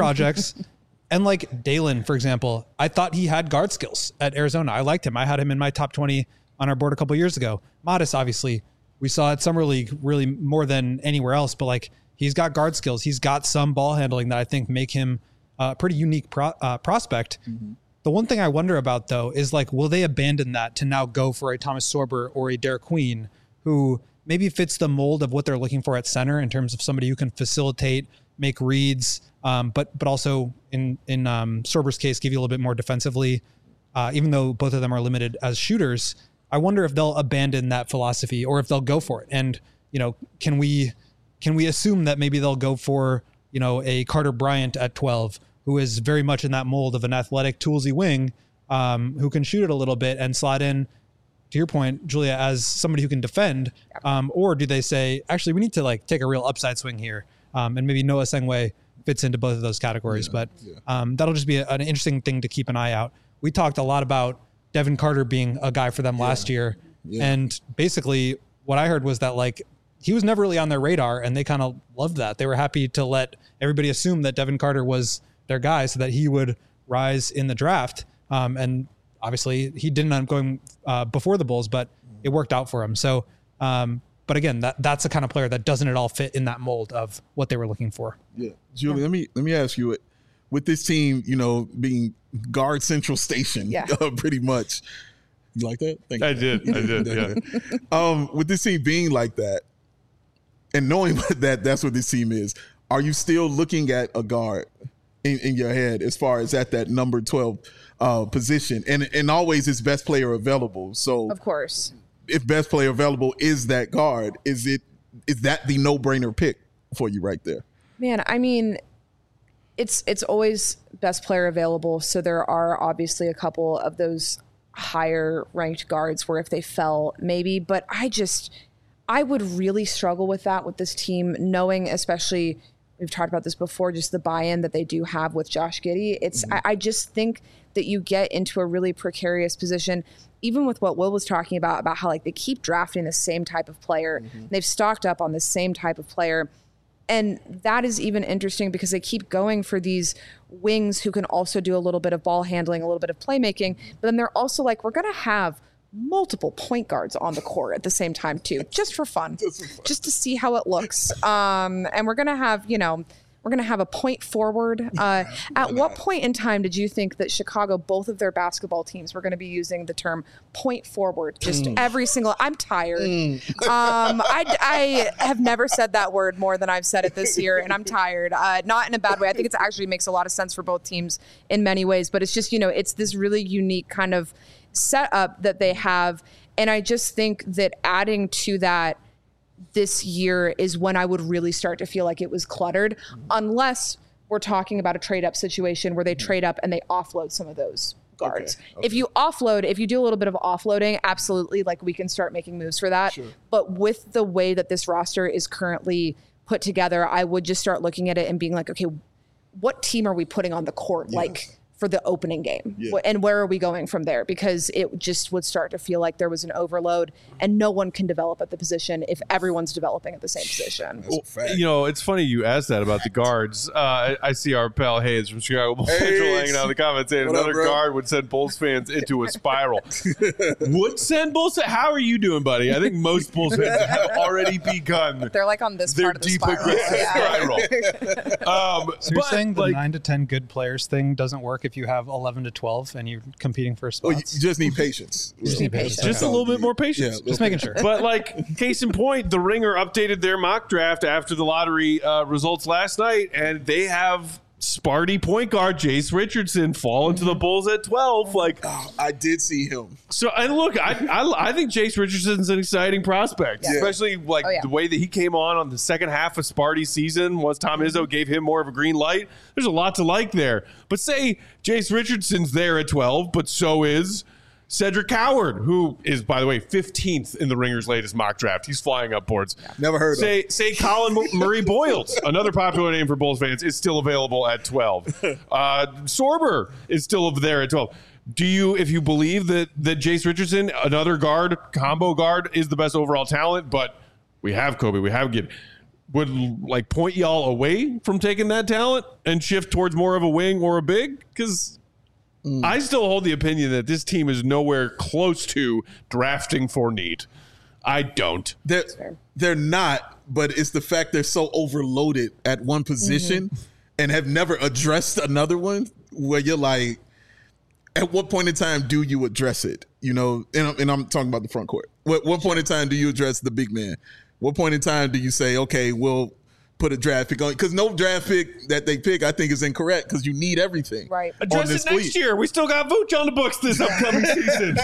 And like Dalen, for example, I thought he had guard skills at Arizona. I liked him. I had him in my top 20 on our board a couple of years ago. Modest, obviously, we saw at Summer League really more than anywhere else, but like, he's got guard skills. He's got some ball handling that I think make him a pretty unique prospect. The one thing I wonder about, though, is like, will they abandon that to now go for a Thomas Sorber or a Derek Queen, who maybe fits the mold of what they're looking for at center in terms of somebody who can facilitate, make reads, but also in Sorber's case, give you a little bit more defensively, even though both of them are limited as shooters. I wonder if they'll abandon that philosophy or if they'll go for it. And, you know, can we assume that maybe they'll go for, you know, a Carter Bryant at 12, who is very much in that mold of an athletic, toolsy wing, who can shoot it a little bit and slot in, to your point, Julia, as somebody who can defend, or do they say, actually, we need to like take a real upside swing here, and maybe Noah Sengwe fits into both of those categories. That'll just be an interesting thing to keep an eye out. We talked a lot about Devin Carter being a guy for them last year, and basically what I heard was that like he was never really on their radar, and they kind of loved that. They were happy to let everybody assume that Devin Carter was their guy so that he would rise in the draft, and obviously, he didn't end up going before the Bulls, but it worked out for him. So, but again, that's the kind of player that doesn't at all fit in that mold of what they were looking for. Yeah, Julie, let me ask you, with this team, you know, being guard central station, pretty much. You like that? Thank you. I did. Yeah. With this team being like that, and knowing that that's what this team is, are you still looking at a guard in your head as far as at that number 12? Position and always is best player available. So of course, if best player available is that guard, is that the no-brainer pick for you right there? Man, I mean, it's always best player available. So there are obviously a couple of those higher ranked guards where if they fell, maybe, but I would really struggle with that with this team, knowing, especially, we've talked about this before, just the buy-in that they do have with Josh Giddey. It's I just think that you get into a really precarious position, even with what Will was talking about how like they keep drafting the same type of player. They've stocked up on the same type of player. And that is even interesting because they keep going for these wings who can also do a little bit of ball handling, a little bit of playmaking. But then they're also like, we're going to have multiple point guards on the court at the same time too, just for fun, just to see how it looks. And we're going to have, you know, we're going to have a point forward. At what point in time did you think that Chicago, both of their basketball teams, were going to be using the term point forward? Just every single, I'm tired. I have never said that word more than I've said it this year, and I'm tired. Not in a bad way. I think it actually makes a lot of sense for both teams in many ways, but it's just, you know, it's this really unique kind of setup that they have. And I just think that adding to that this year is when I would really start to feel like it was cluttered, unless we're talking about a trade up situation where they trade up and they offload some of those guards. Okay. If you do a little bit of offloading, absolutely, like we can start making moves for that. Sure. But with the way that this roster is currently put together, I would just start looking at it and being like, okay, what team are we putting on the court? Yes. Like for the opening game, and where are we going from there? Because it just would start to feel like there was an overload, and no one can develop at the position if everyone's developing at the same position. Well, it's funny you asked that about the guards. I see our pal Hayes from Chicago Bulls Central hanging out in the comments saying another guard would send Bulls fans into a spiral. Would send Bulls? How are you doing, buddy? I think most Bulls fans have already begun. They're like on this part of the spiral. So you're saying the 9 to 10 good players thing doesn't work if you have 11 to 12 and you're competing for spots? You just need patience. Just a little bit more patience. Just making sure. But like, case in point, the Ringer updated their mock draft after the lottery results last night, and they have Sparty point guard Jace Richardson fall into the Bulls at 12. Like, I did see him. So, and look, I think Jace Richardson's an exciting prospect, especially like the way that he came on the second half of Sparty's season. Once Tom Izzo gave him more of a green light, there's a lot to like there. But say Jace Richardson's there at 12, but so is Cedric Howard, who is, by the way, 15th in the Ringer's latest mock draft. He's flying up boards. Never heard of him. Say Colin Murray Boyles, another popular name for Bulls fans, is still available at 12. Sorber is still there at 12. Do you, if you believe that Jace Richardson, another guard, combo guard, is the best overall talent, but we have Kobe, we have Gibb, would like point y'all away from taking that talent and shift towards more of a wing or a big? Because I still hold the opinion that this team is nowhere close to drafting for need. I don't. They're not, but it's the fact they're so overloaded at one position and have never addressed another one where you're like, at what point in time do you address it? You know, and I'm talking about the front court. What point in time do you address the big man? What point in time do you say, okay, we'll put a draft pick on? Because no draft pick that they pick, I think, is incorrect because you need everything. Right. Address it next year. We still got Vooch on the books this upcoming season.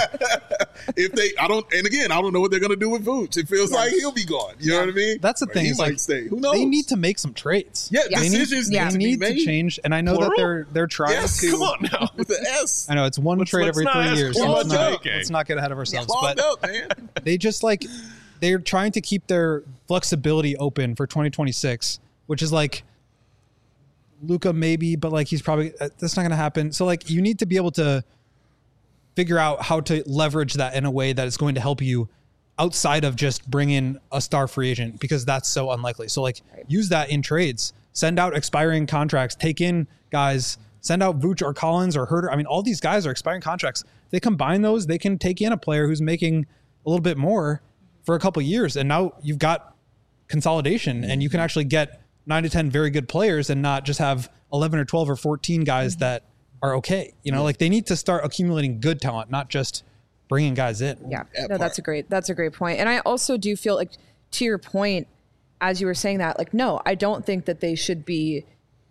I don't know what they're going to do with Vooch. It feels like he'll be gone. You know what I mean? That's the thing. He might stay. Who knows? They need to make some trades. Yeah, decisions need to change. And I know that they're trying to. Come on now. With the S. I know it's one trade every 3 years. Let's not get ahead of ourselves. But up, man. They just they're trying to keep their flexibility open for 2026. Which is like Luka maybe, but like he's probably that's not going to happen. So like you need to be able to figure out how to leverage that in a way that is going to help you outside of just bring in a star free agent, because that's so unlikely. So like use that in trades, send out expiring contracts, take in guys, send out Vooch or Collins or Herter. I mean, all these guys are expiring contracts. If they combine those, they can take in a player who's making a little bit more for a couple of years. And now you've got consolidation and you can actually get 9 to 10 very good players and not just have 11 or 12 or 14 guys that are okay. You know, like they need to start accumulating good talent, not just bringing guys in. Yeah, no, that's a great point. And I also do feel like, to your point, as you were saying that, like, no, I don't think that they should be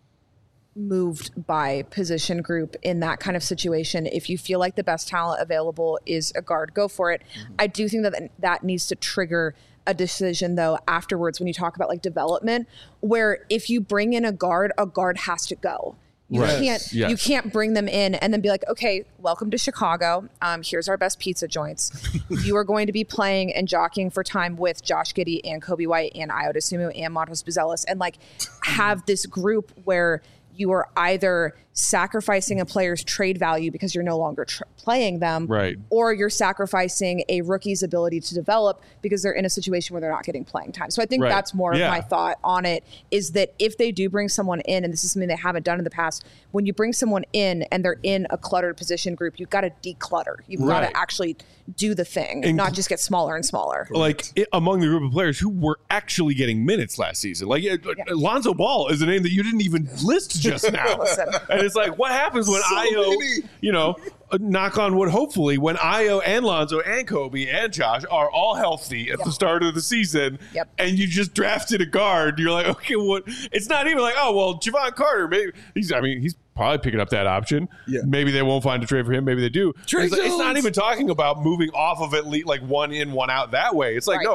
moved by position group in that kind of situation. If you feel like the best talent available is a guard, go for it. I do think that needs to trigger a decision though afterwards when you talk about like development, where if you bring in a guard has to go. You can't bring them in and then be like, okay, welcome to Chicago. Here's our best pizza joints. You are going to be playing and jockeying for time with Josh Giddey and Kobe White and Ayo Dosunmu and Montrezl Buzelis, and like have this group where you are either sacrificing a player's trade value because you're no longer playing them, right, or you're sacrificing a rookie's ability to develop because they're in a situation where they're not getting playing time. So I think that's more of my thought on it, is that if they do bring someone in, and this is something they haven't done in the past, when you bring someone in and they're in a cluttered position group, you've got to declutter. You've got to actually do the thing, and not just get smaller and smaller. Like among the group of players who were actually getting minutes last season, like Lonzo Ball is a name that you didn't even list just now. And it's like, what happens when Ayo, knock on wood, hopefully, when Ayo and Lonzo and Kobe and Josh are all healthy at the start of the season, and you just drafted a guard, you're like, okay, what? It's not even like, oh, well, Javon Carter, maybe he's probably picking up that option. Yeah. Maybe they won't find a trade for him. Maybe they do. It's not even talking about moving off of it like one in, one out that way. It's like, no,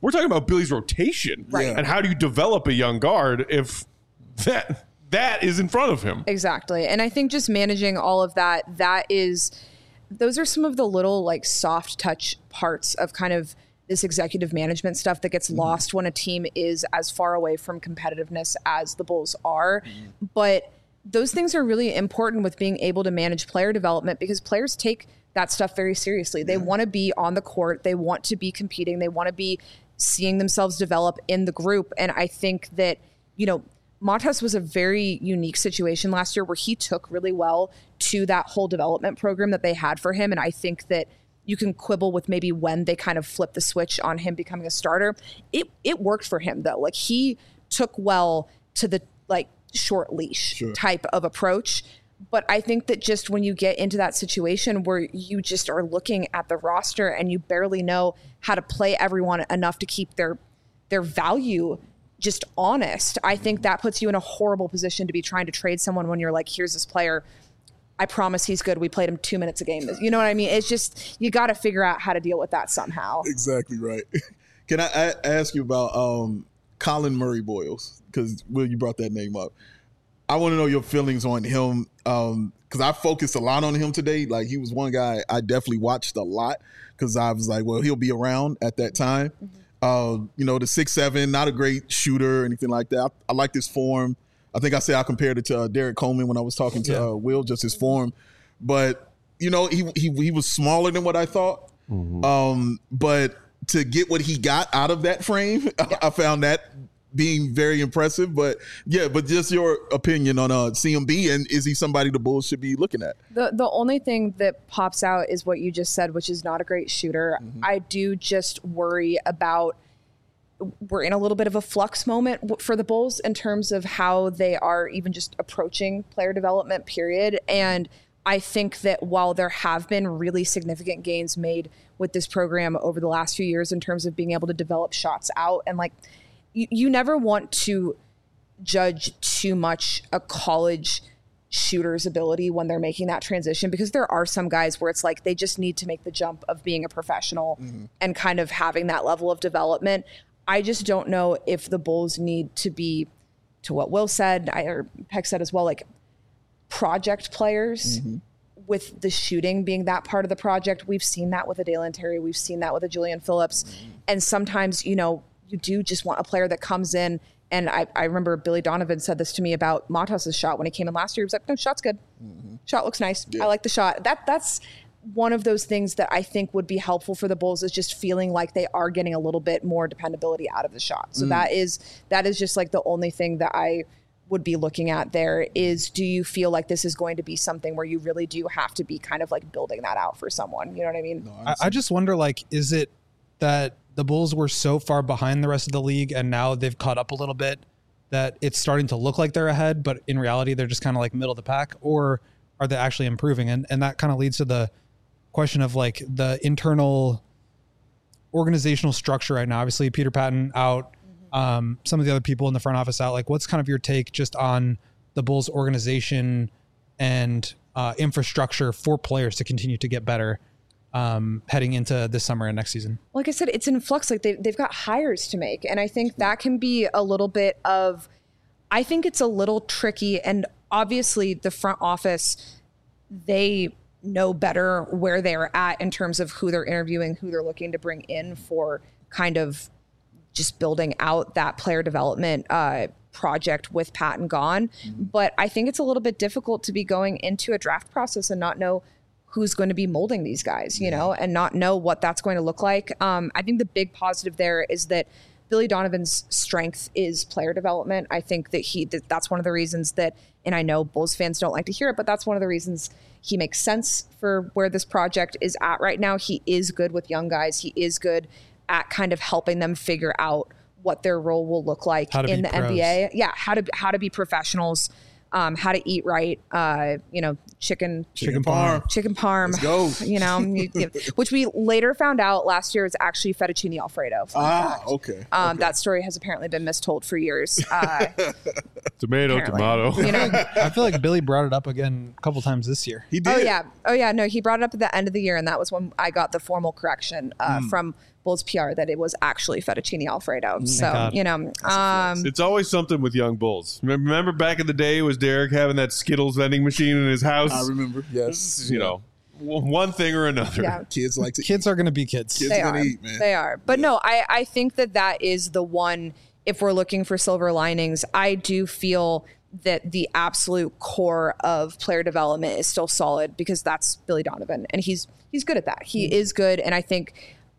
We're talking about Billy's rotation. Right. And how do you develop a young guard if that is in front of him? Exactly. And I think just managing all of that, those are some of the little like soft touch parts of kind of this executive management stuff that gets lost when a team is as far away from competitiveness as the Bulls are. But those things are really important with being able to manage player development, because players take that stuff very seriously. They want to be on the court. They want to be competing. They want to be seeing themselves develop in the group. And I think that, Matas was a very unique situation last year where he took really well to that whole development program that they had for him. And I think that you can quibble with maybe when they kind of flipped the switch on him becoming a starter. It worked for him though. Like he took well to the like short leash type of approach. But I think that just when you get into that situation where you just are looking at the roster and you barely know how to play everyone enough to keep their value just honest, I think that puts you in a horrible position to be trying to trade someone when you're like, here's this player, I promise he's good. We played him 2 minutes a game. You know what I mean? It's just, you got to figure out how to deal with that somehow. Exactly right. Can I ask you about Colin Murray Boyles? Because, Will, you brought that name up. I want to know your feelings on him, because I focused a lot on him today. Like, he was one guy I definitely watched a lot because I was like, well, he'll be around at that time. The 6'7", not a great shooter or anything like that. I like his form. I think I said I compared it to Derek Coleman when I was talking to Will, just his form. But, he was smaller than what I thought. But to get what he got out of that frame, I found that being very impressive. But just your opinion on CMB, and is he somebody the Bulls should be looking at? The only thing that pops out is what you just said, which is not a great shooter. I do just worry about, we're in a little bit of a flux moment for the Bulls in terms of how they are even just approaching player development, period. And I think that while there have been really significant gains made with this program over the last few years in terms of being able to develop shots out, and like, you never want to judge too much a college shooter's ability when they're making that transition, because there are some guys where it's like they just need to make the jump of being a professional and kind of having that level of development. I just don't know if the Bulls need to be, to what Will said, or Peck said as well, like project players with the shooting being that part of the project. We've seen that with a Dalen Terry. We've seen that with a Julian Phillips. And sometimes, you do just want a player that comes in. And I remember Billy Donovan said this to me about Matas' shot when he came in last year. He was like, no, shot's good. Shot looks nice. I like the shot. That's one of those things that I think would be helpful for the Bulls, is just feeling like they are getting a little bit more dependability out of the shot. So that is just like the only thing that I would be looking at there is, do you feel like this is going to be something where you really do have to be kind of like building that out for someone? You know what I mean? No, I just wonder, like, is it that the Bulls were so far behind the rest of the league and now they've caught up a little bit that it's starting to look like they're ahead, but in reality, they're just kind of like middle of the pack? Or are they actually improving? And that kind of leads to the question of like the internal organizational structure right now. Obviously, Peter Patton out, some of the other people in the front office out. Like, what's kind of your take just on the Bulls organization and infrastructure for players to continue to get better heading into this summer and next season? Like I said, it's in flux. Like they've got hires to make. And I think that can be a little bit of, I think it's a little tricky. And obviously the front office, they know better where they're at in terms of who they're interviewing, who they're looking to bring in for kind of just building out that player development project with Patton gone. But I think it's a little bit difficult to be going into a draft process and not know who's going to be molding these guys, and not know what that's going to look like. I think the big positive there is that Billy Donovan's strength is player development. I think that that's one of the reasons that, and I know Bulls fans don't like to hear it, but that's one of the reasons he makes sense for where this project is at right now. He is good with young guys. He is good at kind of helping them figure out what their role will look like in the NBA. Yeah, how to be professionals. How to eat right, chicken parm. Let's go. Which we later found out last year is actually fettuccine Alfredo. Okay. That story has apparently been mistold for years. Tomato. I feel like Billy brought it up again a couple times this year. He did. Oh yeah. No, he brought it up at the end of the year, and that was when I got the formal correction from Bulls PR that it was actually fettuccine Alfredo. So, God. you know, It's always something with young Bulls. Remember back in the day, was Derek having that Skittles vending machine in his house? I remember. Yes. You know, one thing or another. yeah. Kids like to Kids are going to be kids. Kids They gonna are. eat, man. They are. But no, I think that is the one, if we're looking for silver linings, I do feel that the absolute core of player development is still solid because that's Billy Donovan. And he's good at that. He is good. And I think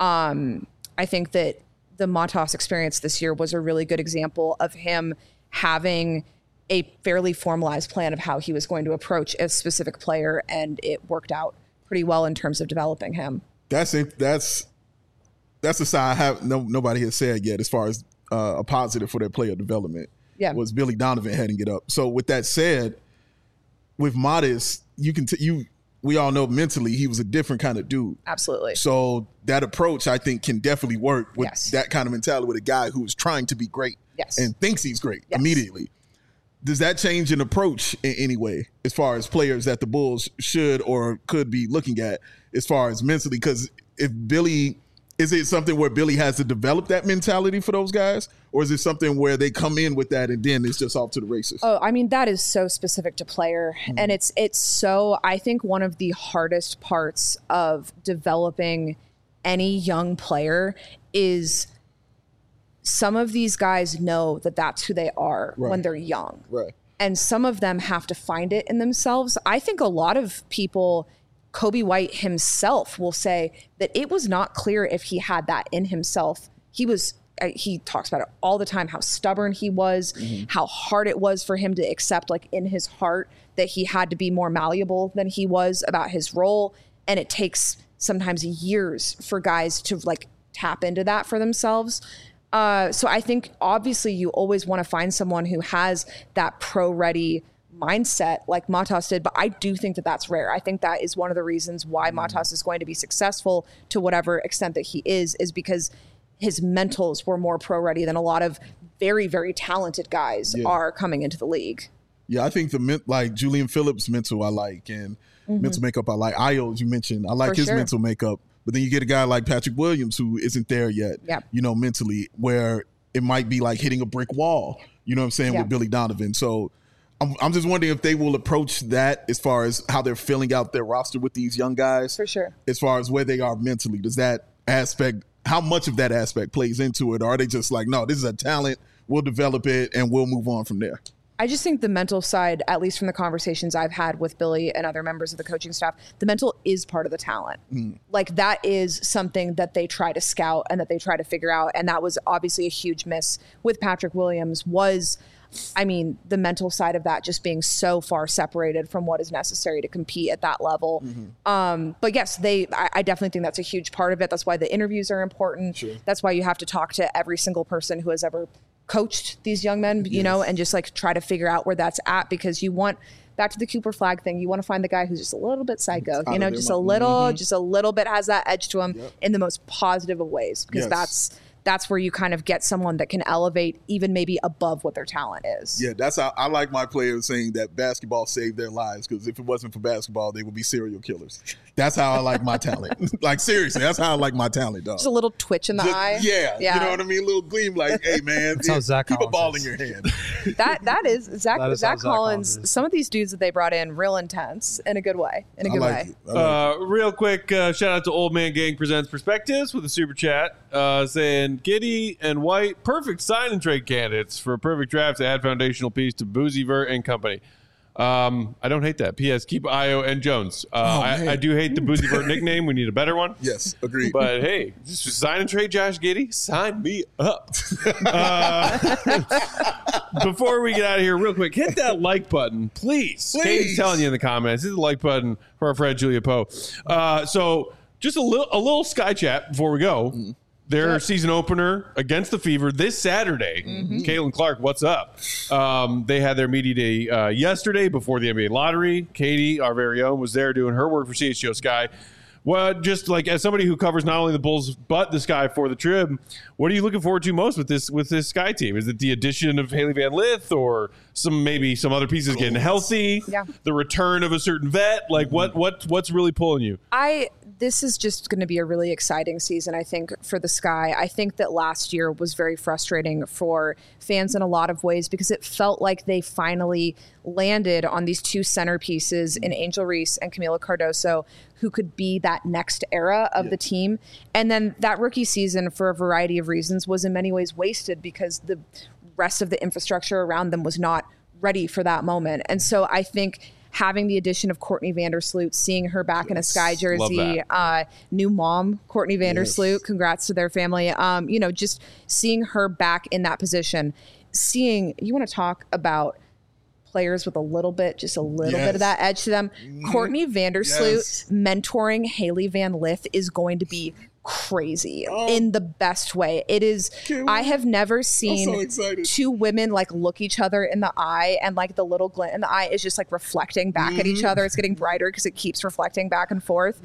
that the Matas experience this year was a really good example of him having a fairly formalized plan of how he was going to approach a specific player. And it worked out pretty well in terms of developing him. That's it. That's a side nobody has said yet as far as a positive for their player development. Yeah. Was Billy Donovan heading it up. So with that said, with Modest, we all know mentally he was a different kind of dude. Absolutely. So that approach, I think, can definitely work with Yes. that kind of mentality with a guy who's trying to be great Yes. and thinks he's great Yes. immediately. Does that change an approach in any way as far as players that the Bulls should or could be looking at as far as mentally? Because is it something where Billy has to develop that mentality for those guys? Or is it something where they come in with that and then it's just off to the races? Oh, I mean, that is so specific to player. And it's so, I think one of the hardest parts of developing any young player is some of these guys know that that's who they are when they're young. Right. And some of them have to find it in themselves. I think a lot of people, Kobe White himself will say that it was not clear if he had that in himself. He talks about it all the time, how stubborn he was, how hard it was for him to accept, like in his heart, that he had to be more malleable than he was about his role. And it takes sometimes years for guys to like tap into that for themselves. So I think obviously you always want to find someone who has that pro-ready mindset like Matas did, but I do think that that's rare. I think that is one of the reasons why Matas is going to be successful to whatever extent that he is because his mentals were more pro-ready than a lot of very, very talented guys are coming into the league. Yeah, I think like Julian Phillips' mental I like, and mental makeup I like. Io, as you mentioned, I like For his sure. mental makeup. But then you get a guy like Patrick Williams who isn't there yet, mentally, where it might be like hitting a brick wall, you know what I'm saying, with Billy Donovan. So I'm just wondering if they will approach that as far as how they're filling out their roster with these young guys. For sure. As far as where they are mentally, does that aspect, how much of that aspect plays into it? Or are they just like, no, this is a talent, we'll develop it, and we'll move on from there? I just think the mental side, at least from the conversations I've had with Billy and other members of the coaching staff, the mental is part of the talent. Like that is something that they try to scout and that they try to figure out. And that was obviously a huge miss with Patrick Williams the mental side of that just being so far separated from what is necessary to compete at that level. But yes, I definitely think that's a huge part of it. That's why the interviews are important. Sure. That's why you have to talk to every single person who has ever coached these young men, you know, and just like try to figure out where that's at, because you want, back to the Cooper Flag thing, you want to find the guy who's just a little bit psycho, you know, just a little bit has that edge to him in the most positive of ways, because that's where you kind of get someone that can elevate even maybe above what their talent is. Yeah, that's how I like my players saying that basketball saved their lives, because if it wasn't for basketball, they would be serial killers. That's how I like my talent. Like, seriously, that's how I like my talent, dog. Just a little twitch in the eye. Yeah, you know what I mean? A little gleam, like, hey, man, That's how Zach keep a Collins ball is. in your hand. That is Zach. That is how Zach Zach Collins Collins. is. Some of these dudes that they brought in, real intense in a good way. In a I good like way. it. I like it. Real quick, shout out to Old Man Gang Presents Perspectives with a super chat saying Giddy and White, perfect sign and trade candidates for a perfect draft to add foundational piece to Boozy Vert and company. I don't hate that. P.S. Keep Io and Jones. I do hate the Boozy Vert nickname. We need a better one. Yes, agreed. But hey, just sign and trade Josh Giddey. Sign me up. Before we get out of here, real quick, hit that like button, please. Katie's telling you in the comments. Hit the like button for our friend Julia Poe. So just a little Sky Chat before we go. Their season opener against the Fever this Saturday. Caitlin Clark, what's up? They had their media day yesterday before the NBA lottery. Katie, our very own, was there doing her work for CHGO Sky. Well, just like as somebody who covers not only the Bulls but the Sky for the Trib, what are you looking forward to most with this Sky team? Is it the addition of Haley Van Lith, or maybe some other pieces getting healthy? Yeah. The return of a certain vet? Like what's really pulling you? this is just going to be a really exciting season, I think, for the Sky. I think that last year was very frustrating for fans in a lot of ways because it felt like they finally landed on these two centerpieces in Angel Reese and Camila Cardoso, who could be that next era of the team. And then that rookie season, for a variety of reasons, was in many ways wasted because the rest of the infrastructure around them was not ready for that moment. And so I think having the addition of Courtney Vandersloot, seeing her back in a Sky jersey, new mom, Courtney Vandersloot, congrats to their family. Just seeing her back in that position, you want to talk about players with just a little bit of that edge to them. Courtney Vandersloot mentoring Haley Van Lith is going to be crazy in the best way. It is. I have never seen two women like look each other in the eye, and like the little glint in the eye is just like reflecting back at each other. It's getting brighter because it keeps reflecting back and forth.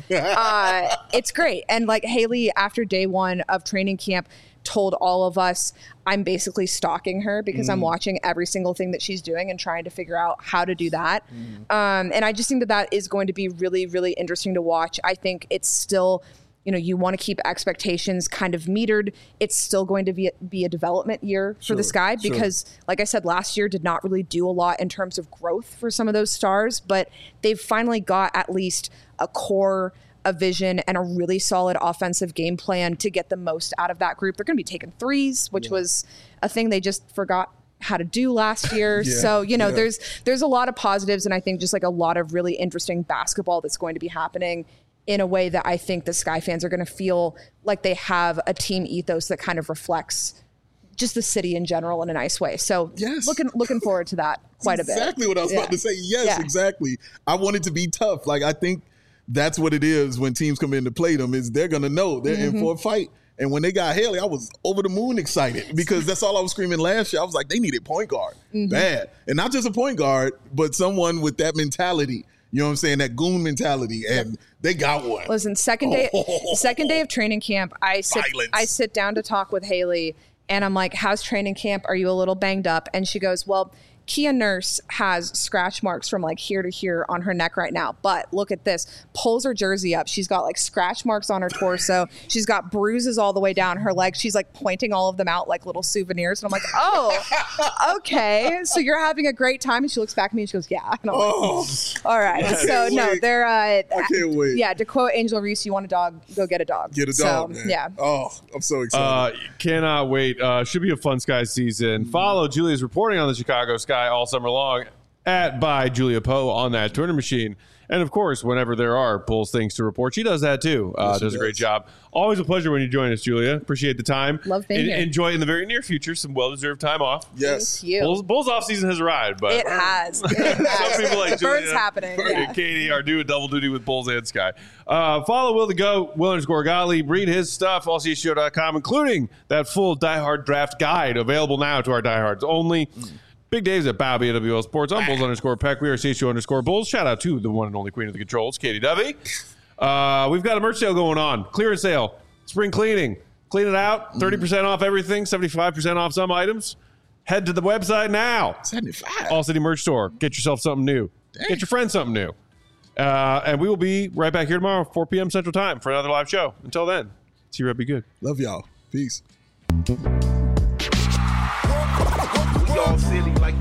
It's great. And like Haley, after day one of training camp, told all of us, I'm basically stalking her because I'm watching every single thing that she's doing and trying to figure out how to do that. And I just think that is going to be really, really interesting to watch. I think it's still, you want to keep expectations kind of metered. It's still going to be a development year for the Sky because, like I said, last year did not really do a lot in terms of growth for some of those stars, but they've finally got at least a core, a vision, and a really solid offensive game plan to get the most out of that group. They're going to be taking threes, which was a thing they just forgot how to do last year. So, there's a lot of positives, and I think just like a lot of really interesting basketball that's going to be happening in a way that I think the Sky fans are going to feel like they have a team ethos that kind of reflects just the city in general in a nice way. So looking forward to that quite a bit. Exactly what I was about to say. Yes, exactly. I want it to be tough. Like, I think that's what it is when teams come in to play them, is they're going to know they're in for a fight. And when they got Haley, I was over the moon excited because that's all I was screaming last year. I was like, they needed point guard bad. And not just a point guard, but someone with that mentality. You know what I'm saying? That goon mentality. And they got one. Listen, second day of training camp, I sit down to talk with Haley, and I'm like, how's training camp? Are you a little banged up? And she goes, well, Kia Nurse has scratch marks from like here to here on her neck right now. But look at this. Pulls her jersey up. She's got like scratch marks on her torso. She's got bruises all the way down her legs. She's like pointing all of them out like little souvenirs. And I'm like, oh, okay. So you're having a great time. And she looks back at me and she goes, yeah. And I'm like, all right. So no, they're, I can't wait. Yeah. To quote Angel Reese, you want a dog, go get a dog. Get a dog, man. Yeah. Oh, I'm so excited. Cannot wait. Should be a fun Sky season. Follow Julia's reporting on the Chicago Sky all summer long at by Julia Poe on that Twitter machine. And of course, whenever there are Bulls things to report, she does that too. Does a great job. Always a pleasure when you join us, Julia. Appreciate the time. Love being here. Enjoy in the very near future some well-deserved time off. Yes. Thank you. Bulls off season has arrived, but it has. some people like the Julia bird's happening. and Katie are doing double duty with Bulls and Sky. Follow Will the Goat, Will_Gottlieb. Read his stuff, allcshow.com, including that full Die Hard draft guide available now to our diehards only. Big Dave's at Bow BWL Sports. I'm Bulls_Peck. We are CHO_Bulls. Shout out to the one and only queen of the controls, Katie Dovey. We've got a merch sale going on. Clearance sale. Spring cleaning. Clean it out. 30% off everything. 75% off some items. Head to the website now. 75. All City Merch Store. Get yourself something new. Dang. Get your friends something new. And we will be right back here tomorrow, 4 p.m. Central Time for another live show. Until then, see you. Be good. Love y'all. Peace. All silly like